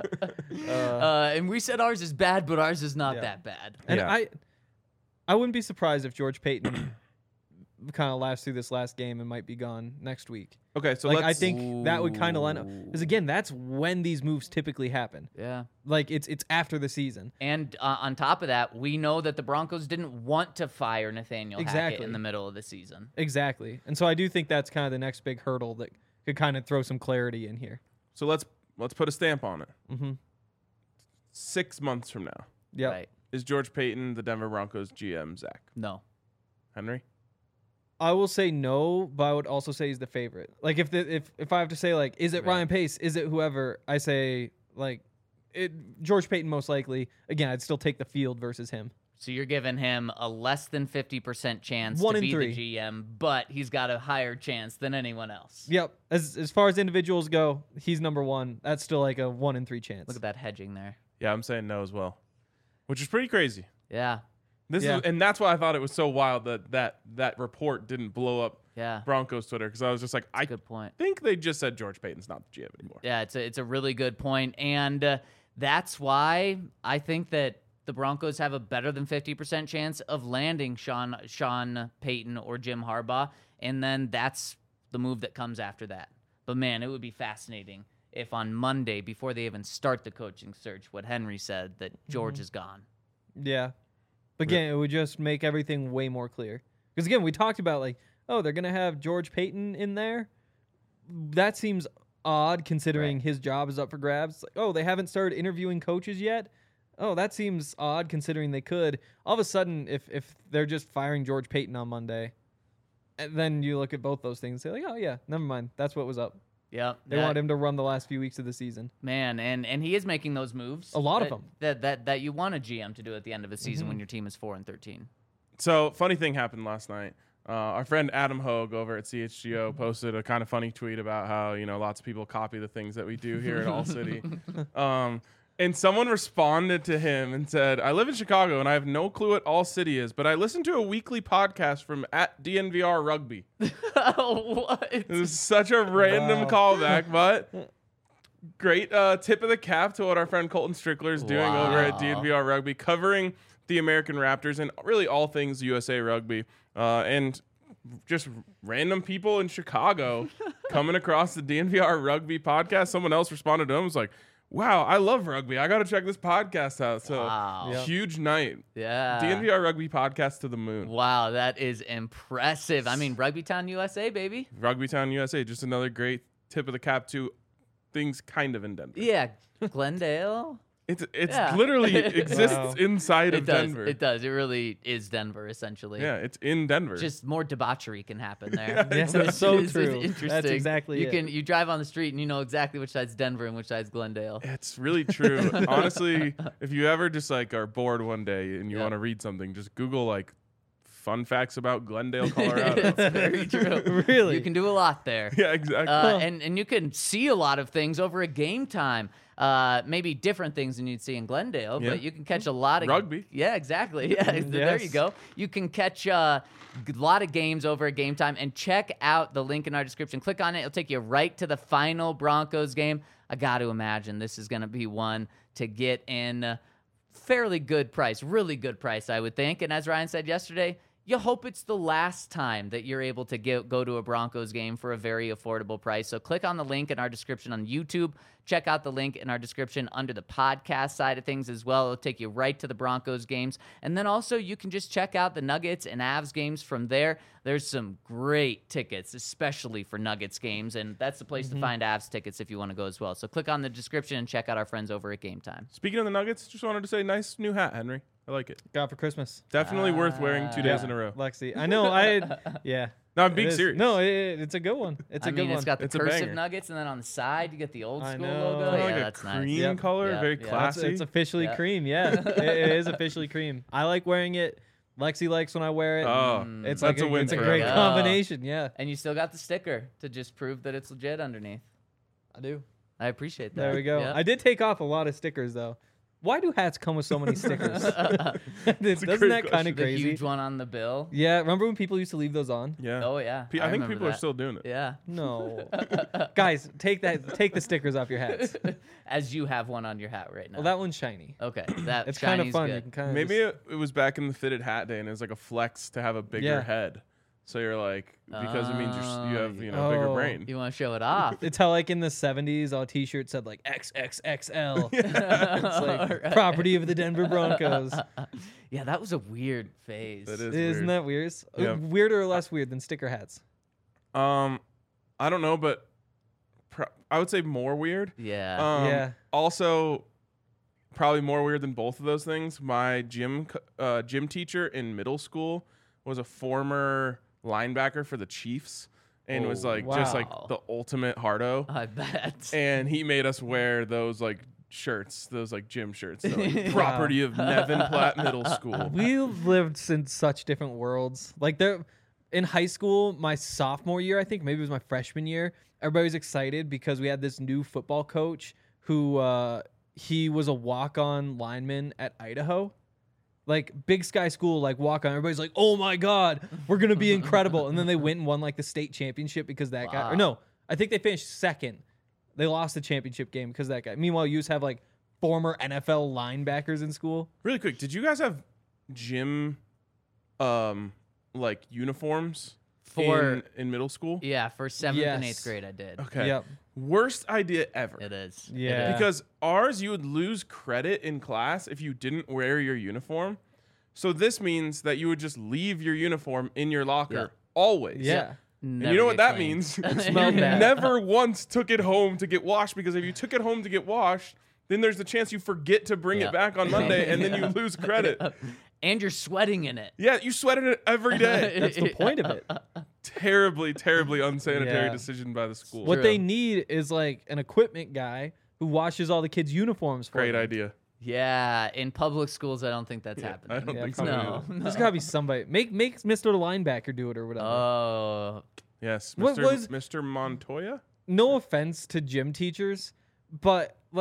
And we said ours is bad, but ours is not Yeah. that bad. And Yeah. I wouldn't be surprised if George Payton kind of lasts through this last game and might be gone next week. Okay, so Like, let's. I think that would kind of line up. Because, again, that's when these moves typically happen. Yeah. Like, it's after the season. And on top of that, we know that the Broncos didn't want to fire Nathaniel Hackett Exactly. in the middle of the season. Exactly. And so I do think that's kind of the next big hurdle that could kind of throw some clarity in here. So let's put a stamp on it. Mm-hmm. 6 months from now, Yep. Right. is George Payton the Denver Broncos GM? Zach No. Henry. I will say no, but I would also say he's the favorite. Like, if I have to say, like, is it Ryan Pace? Is it whoever? I say, like, George Payton most likely. Again, I'd still take the field versus him. So you're giving him a less than 50% chance 1 to in be 3. the GM, but he's got a higher chance than anyone else. Yep. As far as individuals go, he's number one. That's still like a 1 in 3 chance. Look at that hedging there. Yeah, I'm saying no as well, which is pretty crazy. Yeah. And that's why I thought it was so wild that report didn't blow up Yeah. Broncos Twitter, because I was just like, I Good point. think they just said George Payton's not the GM anymore. Yeah, it's a really good point, and that's why I think that the Broncos have a better than 50% chance of landing Sean Payton or Jim Harbaugh, and then that's the move that comes after that. But man, it would be fascinating if on Monday, before they even start the coaching search, what Henry said, that George is gone. Yeah. But again, it would just make everything way more clear. Because again, we talked about, like, oh, they're going to have George Payton in there. That seems odd considering his job is up for grabs. It's like, oh, they haven't started interviewing coaches yet. Oh, that seems odd considering they could. All of a sudden, if they're just firing George Payton on Monday, and then you look at both those things and say, like, oh, yeah, never mind. That's what was up. Yep. They want him to run the last few weeks of the season. Man, and he is making those moves. A lot of them. That you want a GM to do at the end of a season when your team is 4-13. So, funny thing happened last night. Our friend Adam Hogue over at CHGO posted a kind of funny tweet about how, lots of people copy the things that we do here at All City. And someone responded to him and said, I live in Chicago and I have no clue what All City is, but I listen to a weekly podcast from at DNVR Rugby. What? It was such a random callback, but great tip of the cap to what our friend Colton Strickler is doing over at DNVR Rugby, covering the American Raptors and really all things USA Rugby. And just random people in Chicago coming across the DNVR Rugby podcast. Someone else responded to him, was like, wow, I love rugby. I got to check this podcast out. So huge night. Yeah. DNVR Rugby podcast to the moon. Wow, that is impressive. I mean, Rugby Town, USA, baby. Rugby Town, USA. Just another great tip of the cap to things kind of in Denver. Yeah, Glendale. It's Yeah. literally exists Wow. inside It of does. Denver. It does. It really is Denver, essentially. Yeah, it's in Denver. Just more debauchery can happen there. Yeah, that's so It's true. interesting. That's exactly you it. You drive on the street and you know exactly which side's Denver and which side's Glendale. It's really true. Honestly, if you ever just like are bored one day and you want to read something, just Google like fun facts about Glendale, Colorado. It's very true. Really? You can do a lot there. Yeah, exactly. And you can see a lot of things over a game time. Maybe different things than you'd see in Glendale, Yeah. but you can catch a lot of Rugby. Yeah, exactly. Yeah, there you Yes. go. You can catch a lot of games over a game time, and check out the link in our description. Click on it; it'll take you right to the final Broncos game. I got to imagine this is going to be one to get in fairly good price, really good price, I would think. And as Ryan said yesterday, you hope it's the last time that you're able to go to a Broncos game for a very affordable price. So click on the link in our description on YouTube. Check out the link in our description under the podcast side of things as well. It'll take you right to the Broncos games. And then also you can just check out the Nuggets and Avs games from there. There's some great tickets, especially for Nuggets games. And that's the place to find Avs tickets if you want to go as well. So click on the description and check out our friends over at Game Time. Speaking of the Nuggets, just wanted to say nice new hat, Henry. I like it. Got for Christmas. Definitely worth wearing 2 days in a row. Lexi. I know. Yeah. No, I'm It being is. serious. No, it's a good one. It's a I good mean, one. it's got the It's a cursive banger. Nuggets, and then on the side you get the old I school know. logo. Kinda Yeah, like a that's nice. cream Yep. color, Yeah, very yeah. classy. It's officially Yeah. cream. Yeah, it is officially cream. I like wearing it. Lexi likes when I wear it. Oh, it's that's like a win It's a for great everyone. combination. Yeah, And you still got the sticker to just prove that it's legit underneath. I do. I appreciate that. There we go. Yeah. I did take off a lot of stickers though. Why do hats come with so many stickers? Doesn't great that kind question. of The crazy? huge one on the bill. Yeah, remember when people used to leave those on? Yeah. Oh yeah. I think remember people are that. still doing it. Yeah. No, guys, take the stickers off your hats. As you have one on your hat right now. Well, that one's shiny. Okay. That It's kind of shiny's fun. You good. can kind of Maybe it was back in the fitted hat day, and it was like a flex to have a bigger Yeah. head. So you're like, because it means you have bigger Oh. brain. You want to show it off? It's how like in the 70s, all T-shirts said like XXXL. It's like Right. property of the Denver Broncos. Yeah, that was a weird phase. That is Isn't weird. that weird? Yeah. Weirder or less weird than sticker hats? I don't know, but I would say more weird. Yeah. Yeah. Also, probably more weird than both of those things. My gym teacher in middle school was a former linebacker for the Chiefs, and was like just like Wow. the ultimate hardo. I bet. And he made us wear those like shirts, those like gym shirts, that, like, property of Nevin Platte Middle School. We lived in such different worlds. Like there, in high school, my sophomore year, I think maybe it was my freshman year. Everybody was excited because we had this new football coach who he was a walk-on lineman at Idaho. Like Big Sky School, like walk on. Everybody's like, "Oh my God, we're gonna be incredible!" And then they went and won like the state championship because that guy. Or no, I think they finished second. They lost the championship game because of that guy. Meanwhile, you just have like former NFL linebackers in school. Really quick, did you guys have gym like uniforms in middle school? Yeah, for 7th and Yes. 8th grade I did. Okay. Yep. Worst idea ever. It is. Yeah. It is. Because ours, you would lose credit in class if you didn't wear your uniform. So this means that you would just leave your uniform in your locker Yeah. always. Yeah. And you know what that means? smelled You bad. never once took it home to get washed, because if you took it home to get washed, then there's the chance you forget to bring Yeah. it back on Monday, and then you lose credit. And you're sweating in it. Yeah, you sweated it every day. That's the point of it. Terribly, terribly unsanitary Yeah. decision by the school. What True. they need is like an equipment guy who washes all the kids' uniforms for Great them. idea. Yeah, in public schools, I don't think that's happening. I don't Yeah, think so. probably either. No. There's gotta be somebody. Make Mr. Linebacker do it or whatever. Oh, Yes, What Mr. was- Mr. Montoya? No offense to gym teachers, but like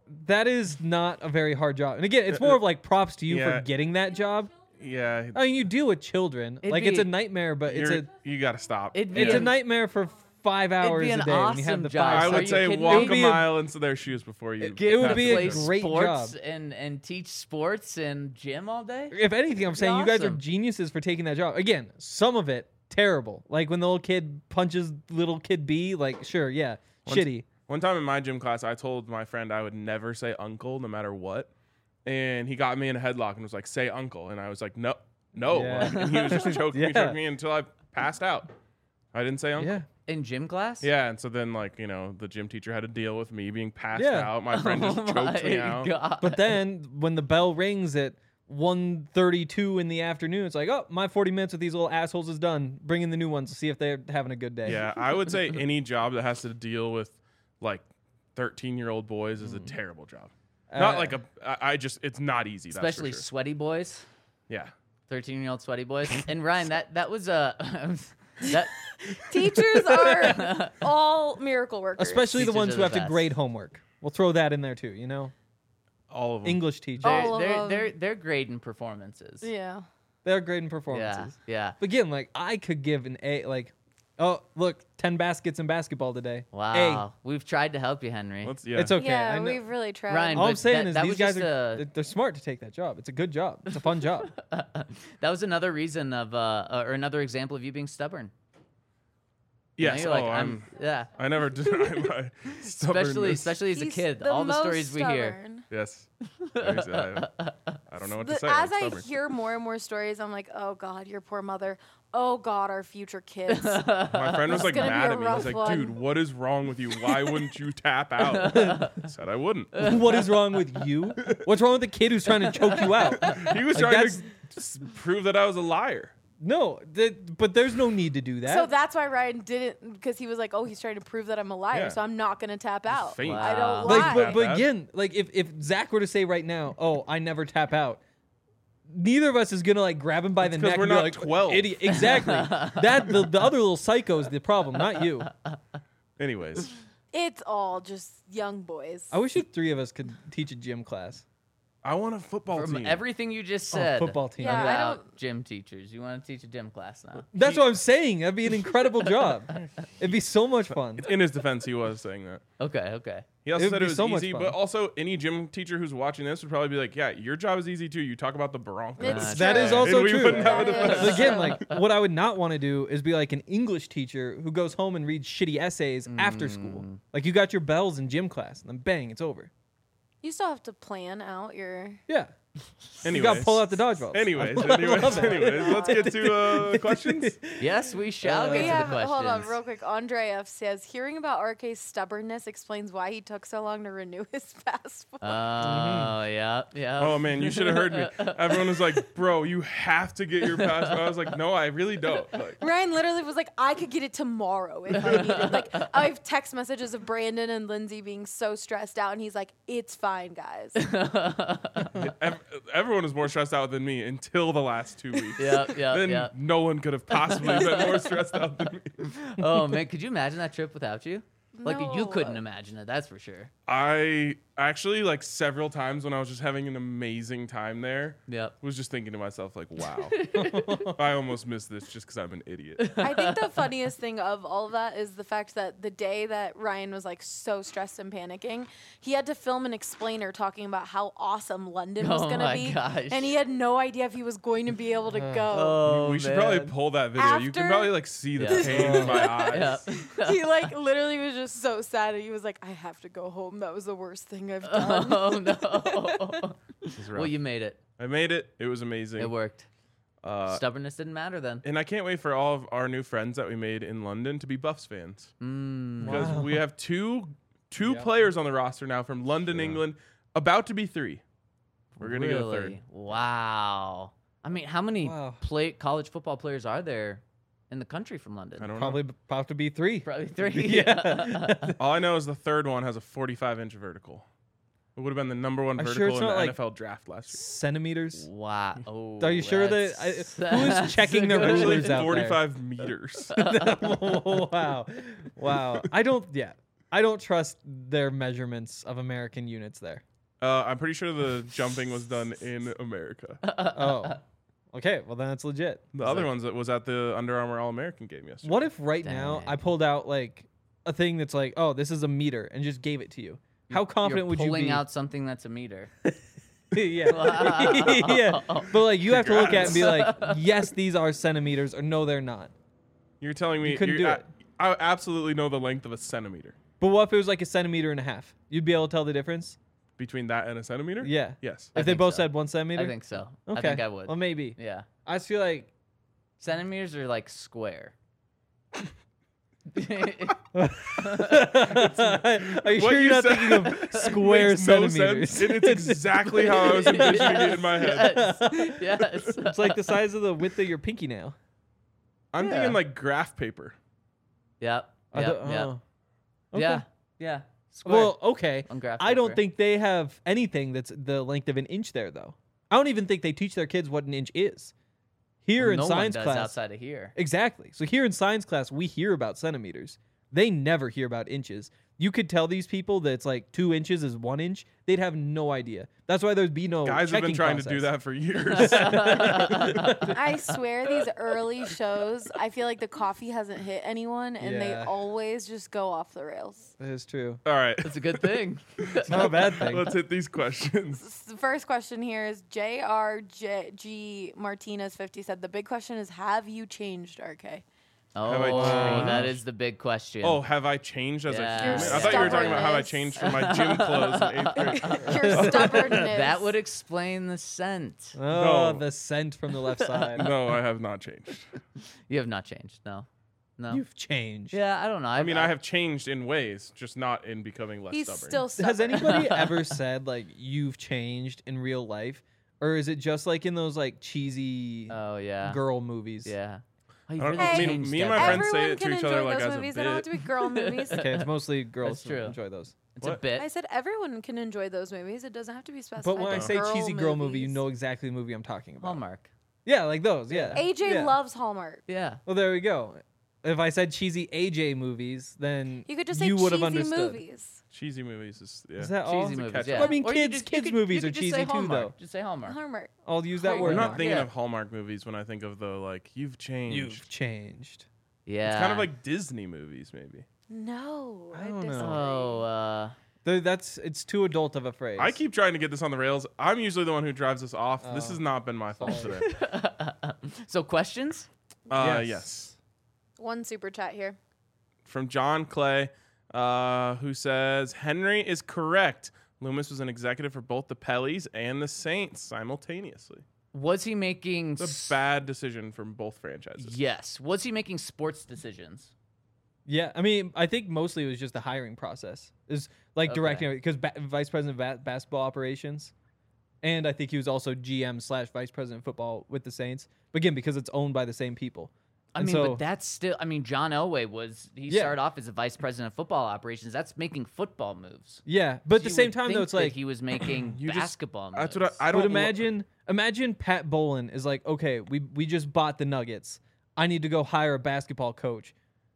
that is not a very hard job. And again, it's more of like props to you Yeah. for getting that job. Yeah, I mean, you deal with children. It'd Like it's a be- nightmare, but you got to stop. It'd be it's a an- nightmare for 5 hours be a an day when you have awesome the job. five. I Are would you say kidding walk me? a It'd be a- mile into their shoes before you. It would pass be the a job. great sports job. and teach sports and gym all day. If anything, I'm saying you guys are awesome. geniuses for taking that job. Again, some of it terrible. Like when the little kid punches little kid B. Like sure, yeah, shitty. One time in my gym class, I told my friend I would never say uncle no matter what. And he got me in a headlock and was like, say uncle. And I was like, no. Yeah. Like, and he was just choking Yeah. me until I passed out. I didn't say uncle. Yeah. In gym class? Yeah, and so then, like, the gym teacher had to deal with me being passed Yeah. out. My friend just choked me out. God. But then when the bell rings at 1:32 in the afternoon, it's like, oh, my 40 minutes with these little assholes is done. Bring in the new ones to see if they're having a good day. Yeah, I would say any job that has to deal with, like, 13-year-old boys is a terrible job. Not like it's not easy, that's for Especially sure. sweaty boys, Yeah. 13-year-old sweaty boys. And Ryan, that was that Teachers are all miracle workers. Especially the Teachers ones are who the have to best. grade homework. We'll throw that in there too, All of them. English teachers. All they're, of they're, them. they're grading performances. Yeah. They're grading Yeah, performances. yeah. But again, like I could give an A, like, oh, look, 10 baskets in basketball today. Wow. We've tried to help you, Henry. Let's, A. yeah. It's okay. I Yeah, know. we've really tried. Ryan, All I'm but saying that- is that these was guys just are they're smart to take that job. It's a good job. It's a fun job. That was another reason of or another example of you being stubborn. You know, Yes. you're like, I'm. yeah. I never deny my stubbornness. Especially as a He's kid, the all the most stories we hear. stubborn. Yes. I don't know what to say. As I'm I stubborn. hear more and more stories, I'm like, oh God, your poor mother. Oh God, our future kids. My friend was like gonna be mad a at me. He's rough like, one. dude, what is wrong with you? Why wouldn't you tap out? I said I wouldn't. What is wrong with you? What's wrong with the kid who's trying to choke you out? He was Like, trying that's- to prove that I was a liar. No, but there's no need to do that. So that's why Ryan didn't, because he was like, oh, he's trying to prove that I'm a liar, Yeah. so I'm not going to tap out. faint. I Wow. don't lie. like, but That- again, like if Zach were to say right now, oh, I never tap out, neither of us is gonna like grab him by the 'cause neck we're and be not like, 12. idiot. Exactly. That the other little psycho is the problem, not you. Anyways, It's all just young boys. I wish the three of us could teach a gym class. I want a football From team. everything you just Oh, said football team. Yeah, I about gym teachers, you want to teach a gym class now. That's what I'm saying. That'd be an incredible job. It'd be so much fun. In his defense, he was saying that. Okay. He also It would said be it was so much easy, fun. but also any gym teacher who's watching this would probably be like, "Yeah, your job is easy too. You talk about the Broncos." It's That true. is also And we true. wouldn't have a That defense. is But again, true. like what I would not want to do is be like an English teacher who goes home and reads shitty essays after school. Like you got your bells in gym class, and then bang, it's over. You still have to plan out your. Yeah. Anyways, You got to pull out the dodgeball. Anyways, let's get to questions. Yes, we shall get We to have, the questions. hold on, real quick. Andre F says, hearing about RK's stubbornness explains why he took so long to renew his passport. Oh, yeah. Oh man, you should have heard me. Everyone was like, "Bro, you have to get your passport." I was like, "No, I really don't." Like, Ryan literally was like, I could get it tomorrow if I needed. Like, I have text messages of Brandon and Lindsay being so stressed out, and he's like, it's fine, guys. everyone was more stressed out than me until the last 2 weeks. Then Yeah. no one could have possibly been more stressed out than me. Oh, man, could you imagine that trip without you? Like, you No. couldn't imagine it, that's for sure. I actually, like, several times when I was just having an amazing time there, Yep. was just thinking to myself, like, wow, I almost missed this just because I'm an idiot. I think the funniest thing of all of that is the fact that the day that Ryan was like so stressed and panicking, he had to film an explainer talking about how awesome London was Oh going to my be. gosh. And he had no idea if he was going to be able to go. Oh, We should probably pull that video. You can After- probably, like, see the Yeah. pain in my eyes. Yeah. He like literally was just so sad. And he was like, I have to go home. That was the worst thing I've done. Oh, no. This is rough. Well, you made it. I made it. It was amazing. It worked. Uh, Stubbornness didn't matter then. And I can't wait for all of our new friends that we made in London to be Buffs fans. Because Wow. we have two Yeah. players on the roster now from London, England, about to be 3. We're going to get a third. Really? Wow. I mean, how many Wow. college football players are there in the country from London? I don't Probably about to be 3. Probably 3. Yeah. know. All I know is the third one has a 45-inch vertical. It would have been the number one Are you vertical sure it's in the not, like, NFL draft last year. Centimeters. Wow. Oh, Are you sure that that's- who is that's checking a the good- Actually, rulers out there? 45 meters. Wow. Wow. I don't. Yeah. I don't trust their measurements of American units there. I'm pretty sure the jumping was done in America. Oh, okay. Well, then it's legit. The other ones that was at the Under Armour All-American game yesterday. What if right now I pulled out like a thing that's like, oh, this is a meter, and just gave it to you? How confident would you be? Pulling out something that's a meter. Yeah. Yeah. But like, you have to look at it and be like, yes, these are centimeters, or no, they're not. You're telling me You couldn't do it. I absolutely know the length of a centimeter. But what if it was like 1.5 centimeters? You'd be able to tell the difference? Between that and a centimeter? Yeah. Yes. If they think both so. said 1 centimeter? I think so. Okay. I think I would. Well, maybe. Yeah. I just feel like. Centimeters are like square. Are What you sure you you're not said thinking of square makes no centimeters? sense, and it's exactly how I was envisioning it in my head. Yes. Yes. It's like the size of the width of your pinky nail. I'm thinking like graph paper. Yep. I Yep. don't- Yep. oh. Okay. Yeah. Yeah. Square. Well, okay. On graph I don't paper. think they have anything that's the length of an inch there, though. I don't even think they teach their kids what an inch is. Here in no science one does class. outside of here. Exactly. So here in science class, we hear about centimeters. They never hear about inches. You could tell these people that it's like 2 inches is 1 inch. They'd have no idea. That's why there'd be no Guys have been checking trying to do process. that for years. I swear these early shows, I feel like the coffee hasn't hit anyone and they Yeah. always just go off the rails. That is true. All right. It's a good thing. It's not a bad thing. Let's hit these questions. The first question here is JRG Martinez 50 said, the big question is, have you changed, RK? Have I Oh, that changed? is the big question. Oh, have I changed as a Yeah. human? Your I thought you were talking about how I stubbornness. changed from my gym clothes in 8th grade. Your stubbornness. that would explain the scent. Oh, No. the scent from the left side. No, I have not changed. You have not changed. No. No. You've changed. Yeah, I don't know. I mean, I have changed in ways, just not in becoming less He's stubborn. still stubborn. Has anybody ever said like you've changed in real life, or is it just like in those like cheesy Oh yeah. girl movies? Yeah. Oh, you I don't really know. Hey, changed me and my everything. friends say Everyone it to can each enjoy other like those as a movies. They don't have bit. to be girl movies. Okay, it's mostly girls That's who true. enjoy those. It's What? a bit. I said everyone can enjoy those movies. It doesn't have to be specified. But when I to say cheesy girl movie, you movies. know exactly the movie I'm talking about. Hallmark. Yeah, like those. Yeah. AJ Yeah. loves Hallmark. Yeah. Well, there we go. If I said cheesy AJ movies, then You could just say you would have cheesy understood. movies. Cheesy movies is yeah. Is that all? Cheesy movies. catch-all. Yeah. Well, I mean, Or you kids you movies you are just say cheesy too, Hallmark. though. Just say Hallmark. Hallmark. I'll use that I'm word. I'm now. not thinking Yeah. of Hallmark movies when I think of the like you've changed. You've changed. Yeah. It's kind of like Disney movies, maybe. No, I don't know. disagree. Oh, It's too adult of a phrase. I keep trying to get this on the rails. I'm usually the one who drives us off. This Oh. has not been my fault Sorry. today. so questions? Yes. One super chat here. From John Clay, who says Henry is correct. Loomis was an executive for both the Pellies and the Saints simultaneously. Was he making It's a bad decision from both franchises. Yes. Was he making sports decisions? Yeah, I mean, I think mostly it was just the hiring process. Is like Okay. directing because vice president of basketball operations, and I think he was also GM / vice president of football with the Saints. But again, because it's owned by the same people. I And mean, so, but that's still. I mean, John Elway he Yeah. started off as a vice president of football operations. That's making football moves. yeah, but at the You same would time though, think it's that like he was making You just- basketball moves. That's what I don't But imagine Pat Bolin is like, okay, we just bought the Nuggets. I need to go hire a basketball coach.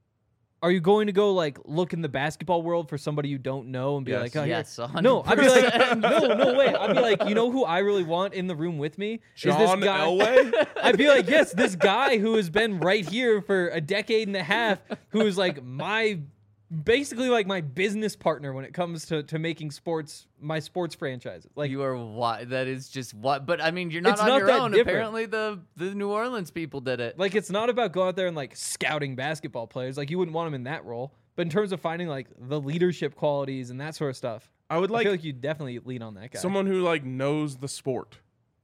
Are you going to go like look in the basketball world for somebody you don't know and be Yes. like, oh, here- Yes, 100%. no, I'd be like, no way. I'd be like, you know who I really want in the room with me John is this guy. Elway. I'd be like, yes, this guy who has been right here for a decade and a half, who is like basically like my business partner when it comes to making my sports franchises. Like, You are that is just what. But I mean, you're not It's on not your that own. different. Apparently, the New Orleans people did it. Like, it's not about going out there and like scouting basketball players. Like, you wouldn't want him in that role. But in terms of finding like the leadership qualities and that sort of stuff, I would I like feel like you definitely lean on that guy. someone who like knows the sport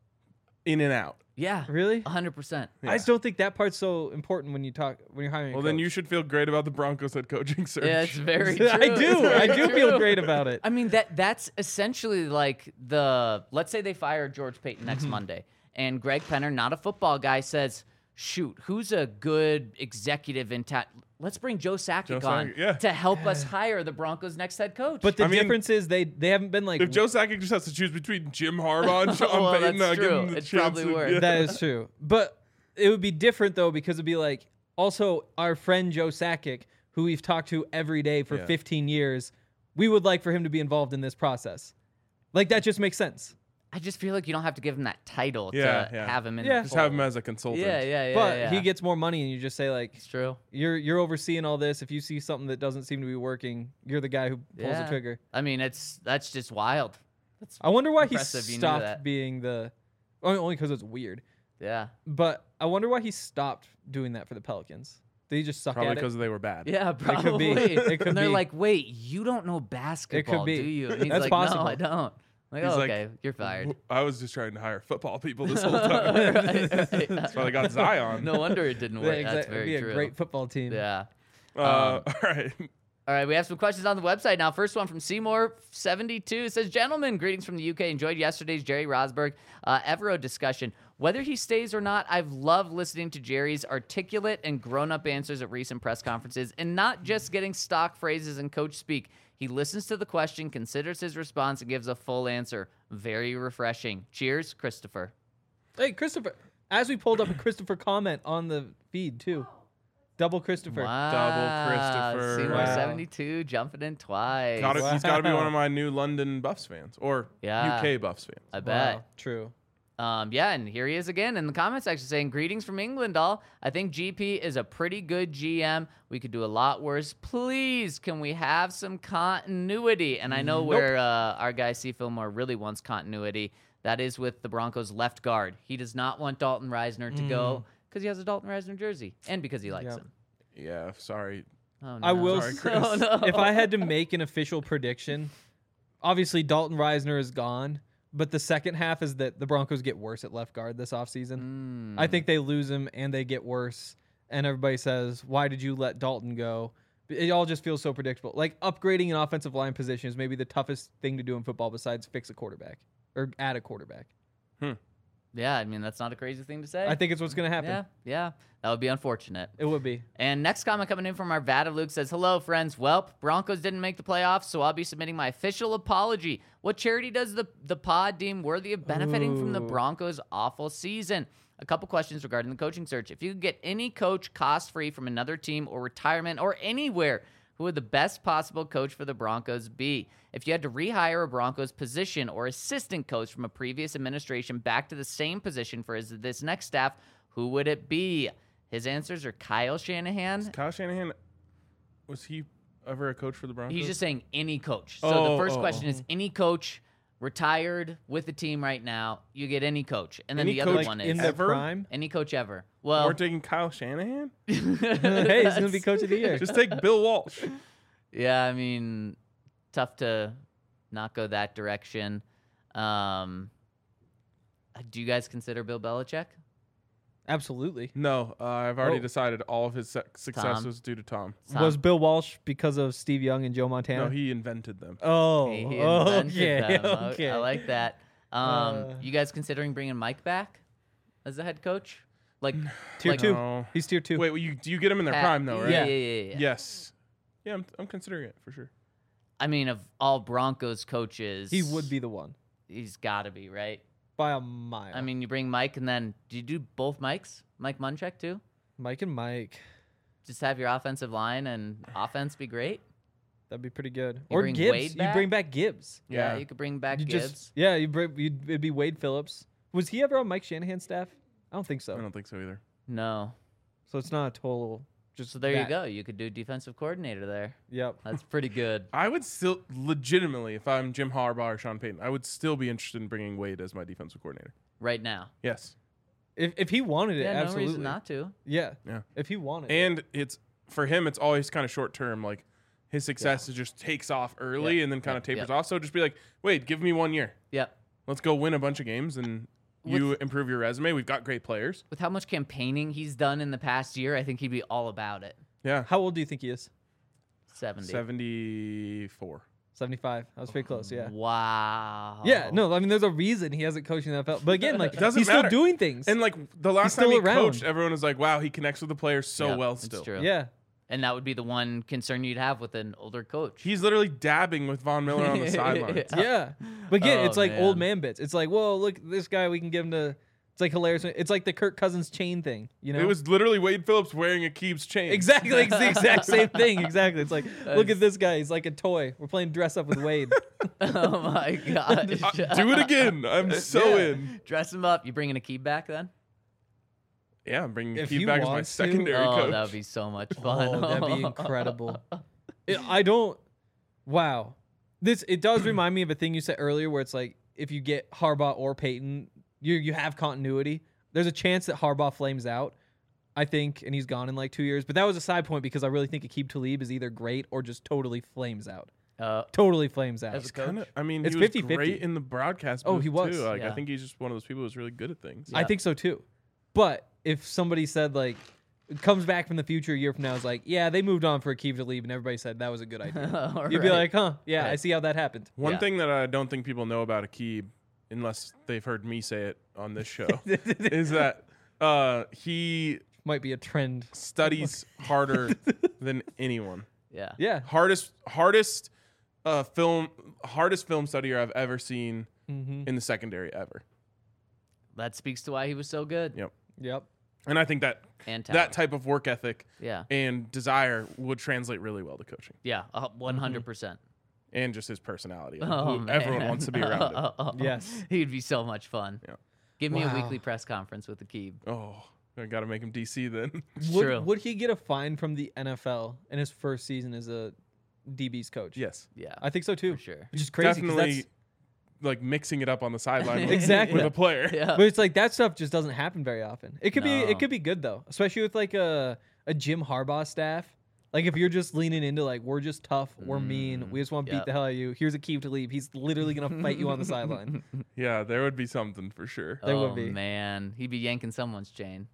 in and out. Yeah, Really? 100%. Yeah. I just don't think that part's so important when you're hiring. Well, then you should feel great about the Broncos head coaching search. Yeah, it's very true. I do. It's I very do feel true. great about it. I mean that's essentially like let's say they fire George Payton next Monday, and Greg Penner, not a football guy, says, "Shoot, who's a good executive in town? Let's bring Joe Sakic on Sakic, yeah. to help us hire the Broncos' next head coach." But the I mean, difference is they haven't been like If Joe Sakic just has to choose between Jim Harbaugh and Sean Well, Payton, that's give true. him the It's chance probably to- worse. yeah. that is true. But it would be different though because it'd be like also our friend Joe Sakic, who we've talked to every day for Yeah. 15 years, we would like for him to be involved in this process. Like, that just makes sense. I just feel like you don't have to give him that title Yeah, to yeah. have him in. Yeah. the Just have him fold. as a consultant. Yeah. But he gets more money, and you just say, like, It's true. you're overseeing all this. If you see something that doesn't seem to be working, you're the guy who pulls the Yeah. trigger. I mean, that's just wild. That's I wonder why he Impressive you knew stopped that. being the... Only because it's weird. yeah. But I wonder why he stopped doing that for the Pelicans. Did he just suck Probably at it? because they were bad. Yeah, could probably. be. It could and they're be. like, "Wait, you don't know basketball, be. do you?" And he's That's like, possible. "No, I don't." I'm like, He's oh, like, okay, you're fired. I was just trying to hire football people this whole time. Right. That's why they got Zion. No wonder it didn't Yeah, work. exactly. That's very It'd be true. a great football team. Yeah. All right. All right, we have some questions on the website now. First one from Seymour72. It says, "Gentlemen, greetings from the UK. Enjoyed yesterday's Jerry Rosberg Evero discussion. Whether he stays or not, I've loved listening to Jerry's articulate and grown-up answers at recent press conferences and not just getting stock phrases and coach speak. He listens to the question, considers his response, and gives a full answer. Very refreshing. Cheers, Christopher." Hey, Christopher. As we pulled up a Christopher comment on the feed, too. Double Christopher. Wow. Christopher. Seymour72 jumping in twice. He's got to be Wow. one of my new London Buffs fans or Yeah. UK Buffs fans. I bet. Wow, true. Yeah, and here he is again in the comment section saying, "Greetings from England, all. I think GP is a pretty good GM. We could do a lot worse. Please, can we have some continuity?" And I know where our guy C. Fillmore really wants continuity. That is with the Broncos left guard. He does not want Dalton Reisner to go because he has a Dalton Reisner jersey and because he likes Yep. him. Yeah, sorry. Oh, no. I will Sorry, say, Chris. Oh, no. if I had to make an official prediction, obviously Dalton Reisner is gone, but the second half is that the Broncos get worse at left guard this offseason. I think they lose him and they get worse, and everybody says, "Why did you let Dalton go?" It all just feels so predictable. Like, upgrading an offensive line position is maybe the toughest thing to do in football besides fix a quarterback or add a quarterback. Yeah, I mean, that's not a crazy thing to say. I think it's what's going to happen. Yeah. That would be unfortunate. It would be. And next comment coming in from our Vada Luke says, "Hello, friends. Welp, Broncos didn't make the playoffs, so I'll be submitting my official apology. What charity does the pod deem worthy of benefiting from the Ooh. Broncos' awful season?" A couple questions regarding the coaching search. If you could get any coach cost-free from another team or retirement or anywhere, who would the best possible coach for the Broncos be? If you had to rehire a Broncos position or assistant coach from a previous administration back to the same position for this next staff, who would it be? His answers are Kyle Shanahan. Kyle Shanahan, was he ever a coach for the Broncos? He's just saying any coach. So the first question oh. is any coach retired with the team right now. You get any coach. And then Any the other coach one in is their ever? prime. any coach ever. Well, We're taking Kyle Shanahan? Hey, he's going to be coach of the year. Just take Bill Walsh. yeah, I mean, tough to not go that direction. Do you guys consider Bill Belichick? Absolutely. No, I've already Oh. decided all of his success Tom? was due to Tom. Tom. Was Bill Walsh because of Steve Young and Joe Montana? No, he invented them. Oh, He invented okay, them. okay. I like that. You guys considering bringing Mike back as the head coach? Like Tier like 2. No. He's tier 2. Wait, do you get him in their Pat- prime though, right? Yeah. Yes. Yeah, I'm considering it for sure. I mean, of all Broncos coaches, He would be the one He's got to be right. by a mile. I mean, you bring Mike, and then do you do both Mikes? Mike Munchak too? Mike and Mike. Just have your offensive line and offense be great. That'd be pretty good. You Or bring Gibbs. Wade You back? bring back Gibbs. Yeah, Yeah. you could bring back You Gibbs. just it'd be Wade Phillips. Was he ever on Mike Shanahan's staff? I don't think I so. don't think so either. No. So it's not a total. Just So there you that. go. You could do defensive coordinator there. Yep. That's pretty good. I would still legitimately, if I'm Jim Harbaugh or Sean Payton, I would still be interested in bringing Wade as my defensive coordinator. Right now. Yes. If he wanted it, Yeah, absolutely. no reason not to. Yeah. Yeah. If he wanted it. And it's for him, it's always kind of short term. Like his success is just takes off early Yep. and then kind of Yep. tapers Yep. off. So just be like, wait, give me 1 year. Yep. Let's go win a bunch of games and you improve your resume. We've got great players. With how much campaigning he's done in the past year, I think he'd be all about it. Yeah. How old do you think he is? 70. 74. 75. I was pretty close, yeah. Wow. Yeah, no, I mean, there's a reason he hasn't coached in the NFL. But again, like, It doesn't he's matter. still doing things. And like the last still time he around. coached, everyone was like, wow, he connects with the players so Yep, well it's still. true. yeah. And that would be the one concern you'd have with an older coach. He's literally dabbing with Von Miller on the sidelines. Yeah. But again, Oh, it's like old man. man bits. It's like, whoa, look, this guy, we can give him to It's like hilarious. It's like the Kirk Cousins chain thing, you know? It was literally Wade Phillips wearing Akeem's chain. exactly it's the exact same thing. Exactly. It's like, look at this guy. He's like a toy. We're playing dress up with Wade. Oh my gosh. Do it again. I'm so Yeah. in. Dress him up. You bringing Akeem back then? Yeah, I'm bringing If Akeem you back as my want to. secondary Oh, coach. that would be so much fun. Oh, that'd be incredible. I don't. Wow. It does remind me of a thing you said earlier, where it's like if you get Harbaugh or Peyton, you have continuity. There's a chance that Harbaugh flames out, I think, and he's gone in like 2 years. But that was a side point because I really think Aqib Talib is either great or just totally flames out. Totally flames out. As a coach? I mean, It's he was 50-50. great in the broadcast. Oh, booth, he was. Too. Like, Yeah. I think he's just one of those people who's really good at things. Yeah. I think so too. But if somebody said like comes back from the future a year from now is like, yeah, they moved on for Aqib Talib, and everybody said that was a good idea. You'd be Right. like, huh, yeah, I Right. see how that happened. One Yeah. thing that I don't think people know about Aqib, unless they've heard me say it on this show, is that he Might be a trend. studies harder than anyone. Yeah. Yeah. Hardest film studier I've ever seen in the secondary ever. That speaks to why he was so good. Yep. Yep. And I think that And that talent. type of work ethic Yeah. and desire would translate really well to coaching Yeah. 100%. and just his personality. Oh, Who everyone man. wants to be around him. Yes. He'd be so much fun. Yeah. Give me a Wow. weekly press conference with Aqib. Oh, I got to make him DC then. True. Would he get a fine from the NFL in his first season as a DB's coach? Yes. Yeah. I think so too. For sure. Which is crazy. 'cause Definitely like mixing it up on the sideline with, Exactly. with a player. Yeah. But it's like that stuff just doesn't happen very often. It could be No. it could be good though, especially with like a Jim Harbaugh staff. Like if you're just leaning into like we're just tough, we're mean, we just want to beat Yep. the hell out of you. Here's Aqib Talib. He's literally gonna fight you on the sideline. Yeah, there would be something for sure. There oh would be. man, he'd be yanking someone's chain.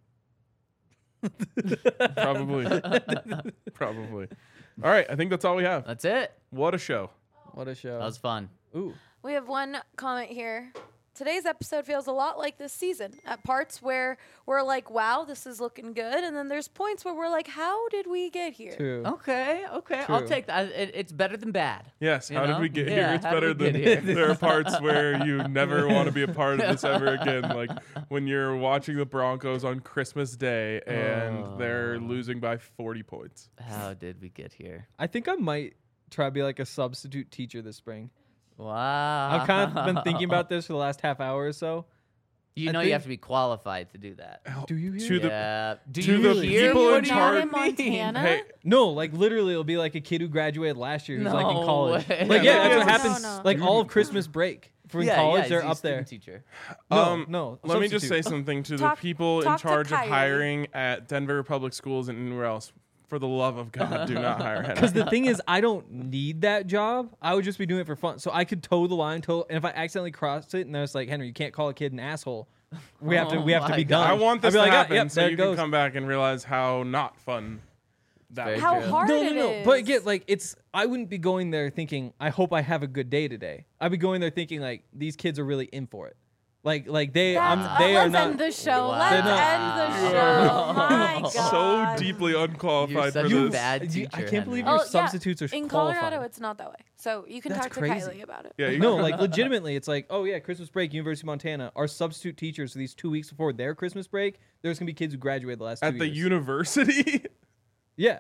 Probably. Probably. All right, I think that's all we have. That's it. What a show. What a show. That was fun. Ooh. We have one comment here. Today's episode feels a lot like this season. At parts where we're like, wow, this is looking good. And then there's points where we're like, how did we get here? True. Okay. I'll True. take that. It's better than bad. Yes, You how did know? we get Yeah, here? It's how better did we than get here? there are parts where you never want to be a part of this ever again. Like when you're watching the Broncos on Christmas Day and they're losing by 40 points. How did we get here? I think I might try to be like a substitute teacher this spring. Wow. I've kind of been thinking about this for the last half hour or so. You I know you think- have to be qualified to do that. Do you hear? To the Yeah. Do to you the hear people what in do charge- you Not in mean? Montana? Hey, No, like literally, it'll be like a kid who graduated last year who's like in No college. way. Like Yeah, that's what no, happens. no. Like all of Christmas break for in college, he's they're a up there. student Teacher. No, let me just say substitute. something to Talk- the people in talk to charge of Kylie. hiring at Denver Public Schools and anywhere else. For the love of God, do not hire him. Because the thing is, I don't need that job. I would just be doing it for fun. So I could toe the line, and if I accidentally crossed it, and I was like, Henry, you can't call a kid an asshole. We have to Oh be my done. I want I'd this be to like, happen yep, so there you it can goes. come back and realize how not fun that Very was. How true. hard No, it is. But again, like I wouldn't be going there thinking, I hope I have a good day today. I'd be going there thinking like these kids are really in for it. Like they, they are let's not. end the show. Wow. Let's They're not- end the You show. are My God. So deeply unqualified You're for such a this. bad I teacher. can't believe Henry. your substitutes are In qualified. Colorado, it's not that way. So you can That's talk to crazy. Kylie about it. Yeah, you No, like legitimately, it's like, oh yeah, Christmas break, University of Montana. Our substitute teachers for these 2 weeks before their Christmas break, there's gonna be kids who graduated the last 2 at the years. university. Yeah.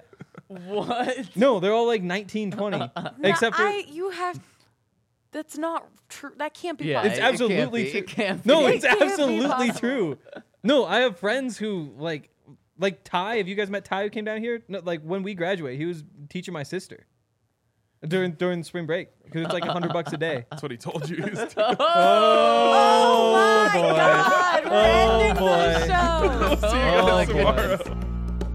What? No, they're all like 19, 20. Except for you have. That's not true. That can't be Yeah, it's possible. it can't absolutely be. true. It can't No, be. it's It can't be absolutely possible. true. No, I have friends who like Ty. Have you guys met Ty who came down here? No, like when we graduate, he was teaching my sister during spring break because it's like $100 a day. That's what he told you. Oh my boy. God! We're Oh, ending boy. the show. See you Oh, guys my tomorrow. goodness.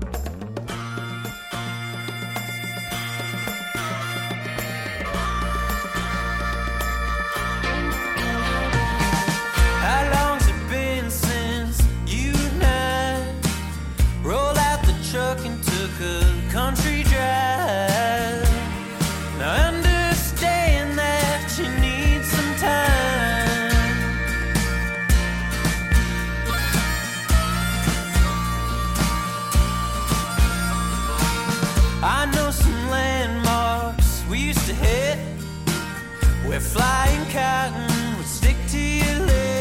How long's it been since you and I rolled out the truck and took a country drive? Now I understand that you need some time. I know some landmarks we used to hit where flying cotton would stick to your lips.